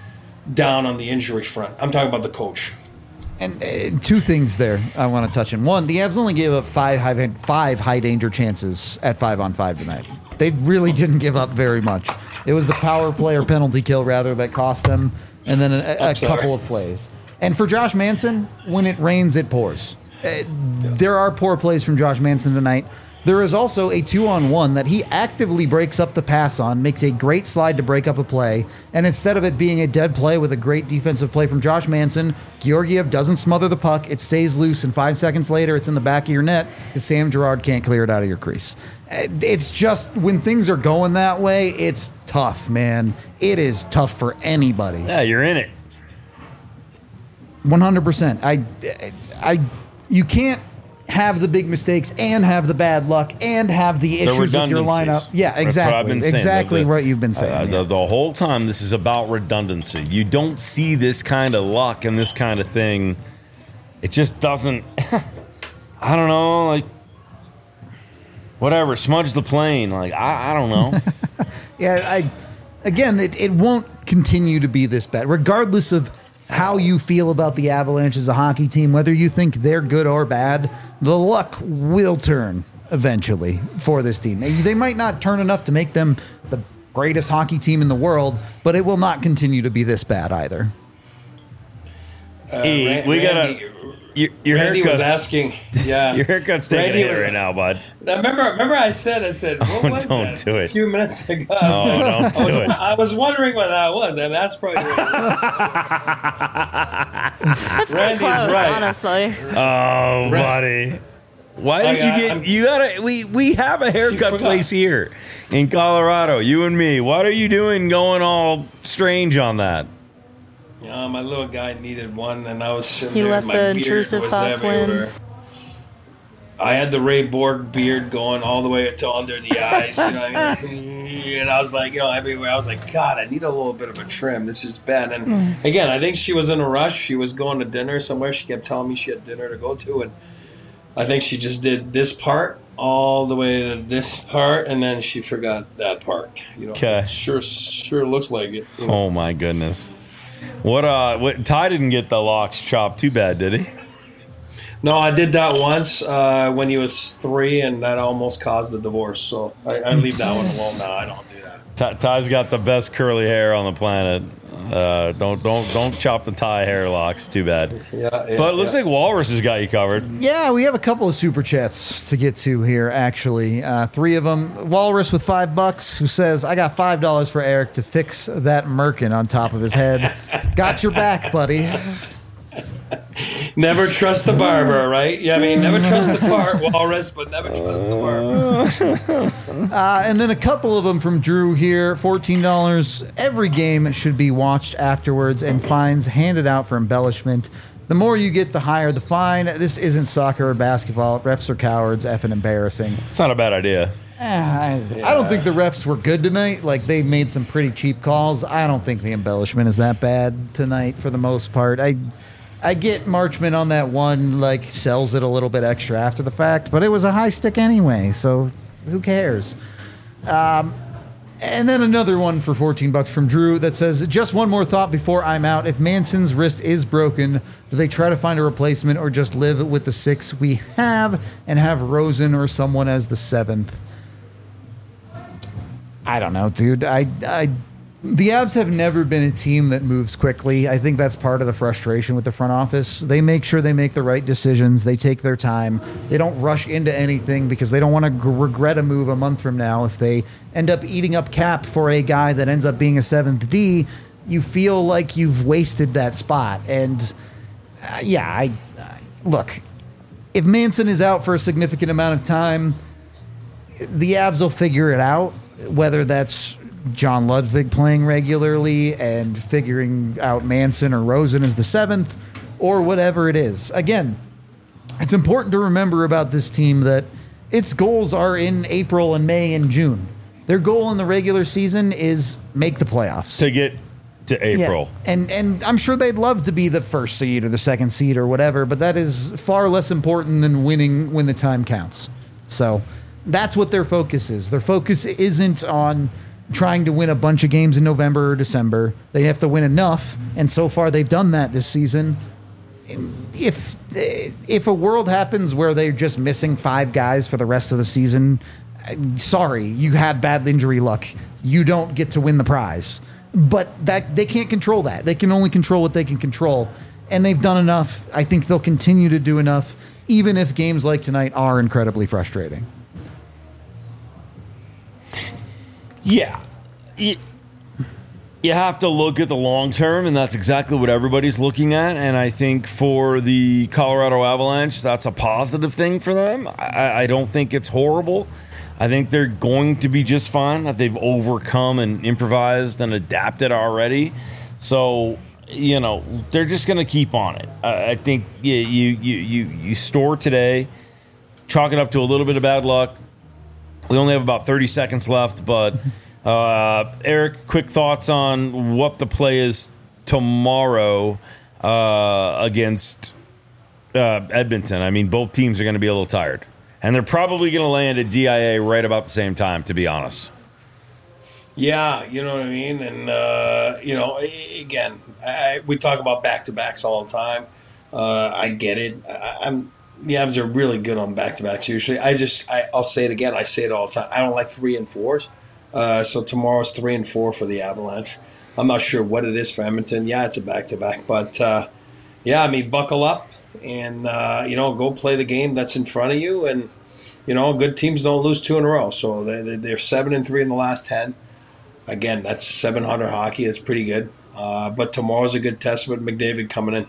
Speaker 3: down on the injury front. I'm talking about the coach.
Speaker 2: And uh, two things there I want to touch on. One, the Avs only gave up five high, five high-danger chances at five-on-five tonight. They really didn't give up very much. It was the power play or penalty kill, rather, that cost them, and then a, a couple of plays. And for Josh Manson, when it rains, it pours. Uh, there are poor plays from Josh Manson tonight. There is also a two-on-one that he actively breaks up the pass on, makes a great slide to break up a play, and instead of it being a dead play with a great defensive play from Josh Manson, Georgiev doesn't smother the puck, it stays loose, and five seconds later it's in the back of your net because Sam Girard can't clear it out of your crease. It's just, when things are going that way, it's tough, man. It is tough for anybody.
Speaker 1: Yeah, you're in it.
Speaker 2: one hundred percent. I... I You can't have the big mistakes and have the bad luck and have the issues with your lineup. Yeah, exactly.
Speaker 1: That's what I've been saying.
Speaker 2: Exactly
Speaker 1: the,
Speaker 2: what you've been saying.
Speaker 1: Uh,
Speaker 2: yeah.
Speaker 1: the, the whole time, this is about redundancy. You don't see this kind of luck and this kind of thing. It just doesn't. I don't know. Like, whatever. Smudge the plane. Like, I, I don't know.
Speaker 2: yeah. I. Again, it, it won't continue to be this bad, regardless of how you feel about the Avalanche as a hockey team, whether you think they're good or bad, the luck will turn eventually for this team. They might not turn enough to make them the greatest hockey team in the world, but it will not continue to be this bad either.
Speaker 3: Uh,
Speaker 1: hey,
Speaker 3: Ran-
Speaker 1: we got
Speaker 3: Randy,
Speaker 1: Your, your
Speaker 3: Randy
Speaker 1: haircut's,
Speaker 3: was asking, yeah.
Speaker 1: Your haircut's taking
Speaker 3: Randy
Speaker 1: a hit
Speaker 3: was,
Speaker 1: right now, bud.
Speaker 3: Now remember, remember I said, I said, what
Speaker 1: oh,
Speaker 3: was
Speaker 1: don't
Speaker 3: that?
Speaker 1: do it.
Speaker 3: A few minutes ago.
Speaker 1: Oh, don't do
Speaker 3: I was,
Speaker 1: it.
Speaker 3: I was wondering what that was, and that's probably what it was.
Speaker 4: That's pretty
Speaker 3: Randy's
Speaker 4: close,
Speaker 3: right.
Speaker 4: honestly.
Speaker 1: Oh, buddy. Why did
Speaker 3: I,
Speaker 1: you get?
Speaker 3: I'm,
Speaker 1: you gotta. We we have a haircut place here in Colorado. You and me. What are you doing? Going all strange on that?
Speaker 3: Yeah, my little guy needed one, and I was sitting
Speaker 4: He
Speaker 3: there.
Speaker 4: let
Speaker 3: my
Speaker 4: the
Speaker 3: beard
Speaker 4: intrusive
Speaker 3: was
Speaker 4: thoughts win.
Speaker 3: everywhere. I had the Ray Borg beard going all the way to under the eyes, you know what I mean? And I was like, you know, everywhere. I was like, God, I need a little bit of a trim. This is bad. And again, I think she was in a rush. She was going to dinner somewhere. She kept telling me she had dinner to go to. And I think she just did this part all the way to this part, and then she forgot that part. You know,
Speaker 1: okay.
Speaker 3: Sure, sure looks like it. You know?
Speaker 1: Oh, my goodness. What, uh, what, Ty didn't get the locks chopped too bad, did he?
Speaker 3: No, I did that once uh, when he was three, and that almost caused the divorce. So I, I leave that one alone now. I don't do that.
Speaker 1: Ty, Ty's got the best curly hair on the planet. Uh, don't don't don't chop the Ty hair locks. Too bad.
Speaker 3: Yeah, yeah
Speaker 1: but it looks
Speaker 3: yeah.
Speaker 1: like Walrus has got you covered.
Speaker 2: Yeah, we have a couple of super chats to get to here. Actually, uh, three of them. Walrus with five bucks, who says, "I got five dollars for Eric to fix that merkin on top of his head. Got your back, buddy."
Speaker 3: Never trust the barber, right? Yeah, I mean, never trust the fart, Walrus, but never trust the barber.
Speaker 2: Uh, and then a couple of them from Drew here. fourteen dollars. Every game should be watched afterwards and fines handed out for embellishment. The more you get, the higher the fine. This isn't soccer or basketball. Refs are cowards, effing embarrassing.
Speaker 1: It's not a bad idea.
Speaker 2: Eh, I, I don't think the refs were good tonight. Like, they made some pretty cheap calls. I don't think the embellishment is that bad tonight for the most part. I... I get Marchman on that one, like, sells it a little bit extra after the fact, but it was a high stick anyway, so who cares? Um, and then another one for fourteen bucks from Drew that says, just one more thought before I'm out. If Manson's wrist is broken, do they try to find a replacement or just live with the six we have and have Rosen or someone as the seventh? I don't know, dude. I... I The Avs have never been a team that moves quickly. I think that's part of the frustration with the front office. They make sure they make the right decisions. They take their time. They don't rush into anything because they don't want to g- regret a move a month from now. If they end up eating up cap for a guy that ends up being a seventh D, you feel like you've wasted that spot. And uh, yeah, I uh, look, if Manson is out for a significant amount of time, the Avs will figure it out, whether that's John Ludwig playing regularly and figuring out Manson or Rosen as the seventh or whatever it is. Again, it's important to remember about this team that its goals are in April and May and June. Their goal in the regular season is make the playoffs.
Speaker 1: To get to April.
Speaker 2: Yeah. And and I'm sure they'd love to be the first seed or the second seed or whatever, but that is far less important than winning when the time counts. So that's what their focus is. Their focus isn't on trying to win a bunch of games in November or December. They have to win enough, and so far they've done that this season. If if a world happens where they're just missing five guys for the rest of the season, sorry, you had bad injury luck. You don't get to win the prize. But that they can't control that. They can only control what they can control, and they've done enough. I think they'll continue to do enough, even if games like tonight are incredibly frustrating.
Speaker 1: Yeah. You, you have to look at the long term, and that's exactly what everybody's looking at. And I think for the Colorado Avalanche, that's a positive thing for them. I, I don't think it's horrible. I think they're going to be just fine, that they've overcome and improvised and adapted already. So, you know, they're just going to keep on it. I, I think you, you, you, you, you store today, chalk it up to a little bit of bad luck. We only have about thirty seconds left, but uh, Eric, quick thoughts on what the play is tomorrow uh, against uh, Edmonton. I mean, both teams are going to be a little tired, and they're probably going to land at D I A right about the same time, to be honest.
Speaker 3: Yeah, you know what I mean? And, uh, you know, again, I, we talk about back-to-backs all the time. Uh, I get it. I, I'm... The Avs are really good on back-to-backs usually. I just, I, I'll say it again. I say it all the time. I don't like three and fours. Uh, so tomorrow's three and four for the Avalanche. I'm not sure what it is for Edmonton. Yeah, it's a back-to-back. But, uh, yeah, I mean, buckle up and, uh, you know, go play the game that's in front of you. And, you know, good teams don't lose two in a row. So they, they're seven and three in the last ten. Again, that's seven hundred hockey. That's pretty good. Uh, but tomorrow's a good test with McDavid coming in.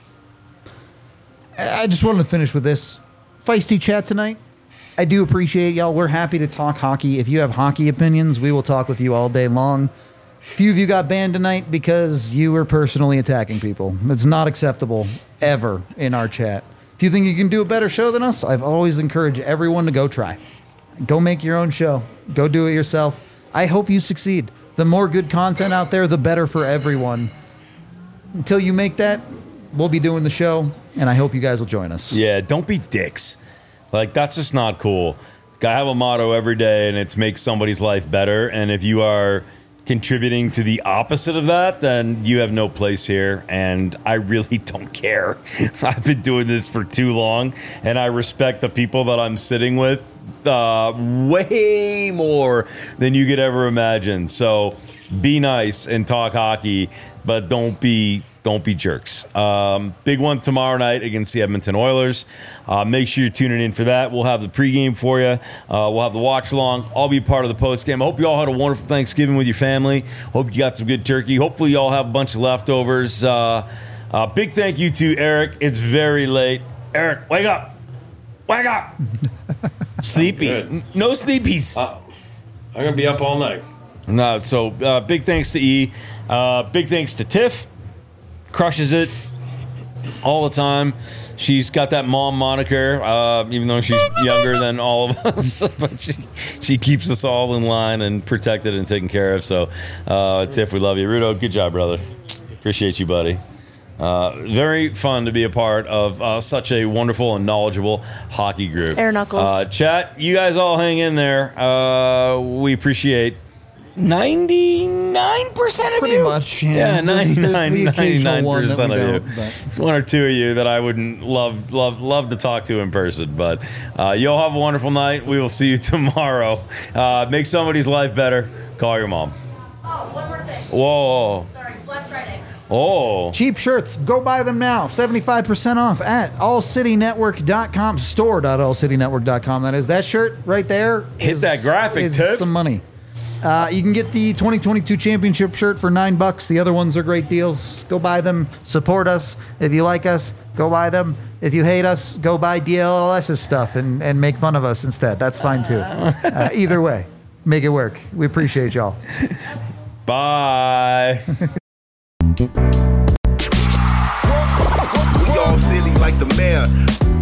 Speaker 2: I just wanted to finish with this. Feisty chat tonight. I do appreciate y'all. We're happy to talk hockey. If you have hockey opinions, we will talk with you all day long. Few of you got banned tonight because you were personally attacking people. That's not acceptable ever in our chat. If you think you can do a better show than us, I've always encouraged everyone to go try. Go make your own show. Go do it yourself. I hope you succeed. The more good content out there, the better for everyone. Until you make that, we'll be doing the show, and I hope you guys will join us.
Speaker 1: Yeah, don't be dicks. Like, that's just not cool. I have a motto every day, and it's make somebody's life better. And if you are contributing to the opposite of that, then you have no place here. And I really don't care. I've been doing this for too long, and I respect the people that I'm sitting with uh, way more than you could ever imagine. So be nice and talk hockey, but don't be don't be jerks. Um, big one tomorrow night against the Edmonton Oilers. Uh, make sure you're tuning in for that. We'll have the pregame for you. Uh, we'll have the watch along. I'll be part of the postgame. I hope you all had a wonderful Thanksgiving with your family. Hope you got some good turkey. Hopefully you all have a bunch of leftovers. Uh, uh, big thank you to Eric. It's very late. Eric, wake up. Wake up. Sleepy. N- no sleepies.
Speaker 3: Uh, I'm going to be up all night.
Speaker 1: No, so uh, big thanks to E. Uh, big thanks to Tiff. Crushes it all the time. She's got that mom moniker, uh, even though she's younger than all of us. But she, she keeps us all in line and protected and taken care of. So, uh, Tiff, we love you. Rudo, good job, brother. Appreciate you, buddy. Uh, very fun to be a part of uh, such a wonderful and knowledgeable hockey group.
Speaker 4: Air Knuckles.
Speaker 1: Uh, chat, you guys all hang in there. Uh, we appreciate ninety-nine percent of
Speaker 2: Pretty
Speaker 1: you.
Speaker 2: much, yeah.
Speaker 1: Yeah,
Speaker 2: There's- there's
Speaker 1: ninety-nine,
Speaker 2: the occasional one that
Speaker 1: ninety-nine percent
Speaker 2: we
Speaker 1: of you.
Speaker 2: don't, but-
Speaker 1: There's one or two of you that I wouldn't love love love to talk to in person. But uh, you all have a wonderful night. We will see you tomorrow. Uh, make somebody's life better. Call your mom.
Speaker 5: Oh, one more thing.
Speaker 1: Whoa.
Speaker 5: Sorry, Black Friday.
Speaker 1: Oh.
Speaker 2: Cheap shirts, go buy them now. seventy-five percent off at all city network dot com, store dot all city network dot com. That is that shirt right there.
Speaker 1: Hit
Speaker 2: is-
Speaker 1: that graphic,
Speaker 2: is
Speaker 1: Tiff.
Speaker 2: some money. Uh, you can get the twenty twenty-two championship shirt for nine bucks. The other ones are great deals. Go buy them. Support us. If you like us, go buy them. If you hate us, go buy D L L S's stuff and, and make fun of us instead. That's fine too. Uh, either way, make it work. We appreciate y'all.
Speaker 1: Bye.
Speaker 6: We all silly like the mayor.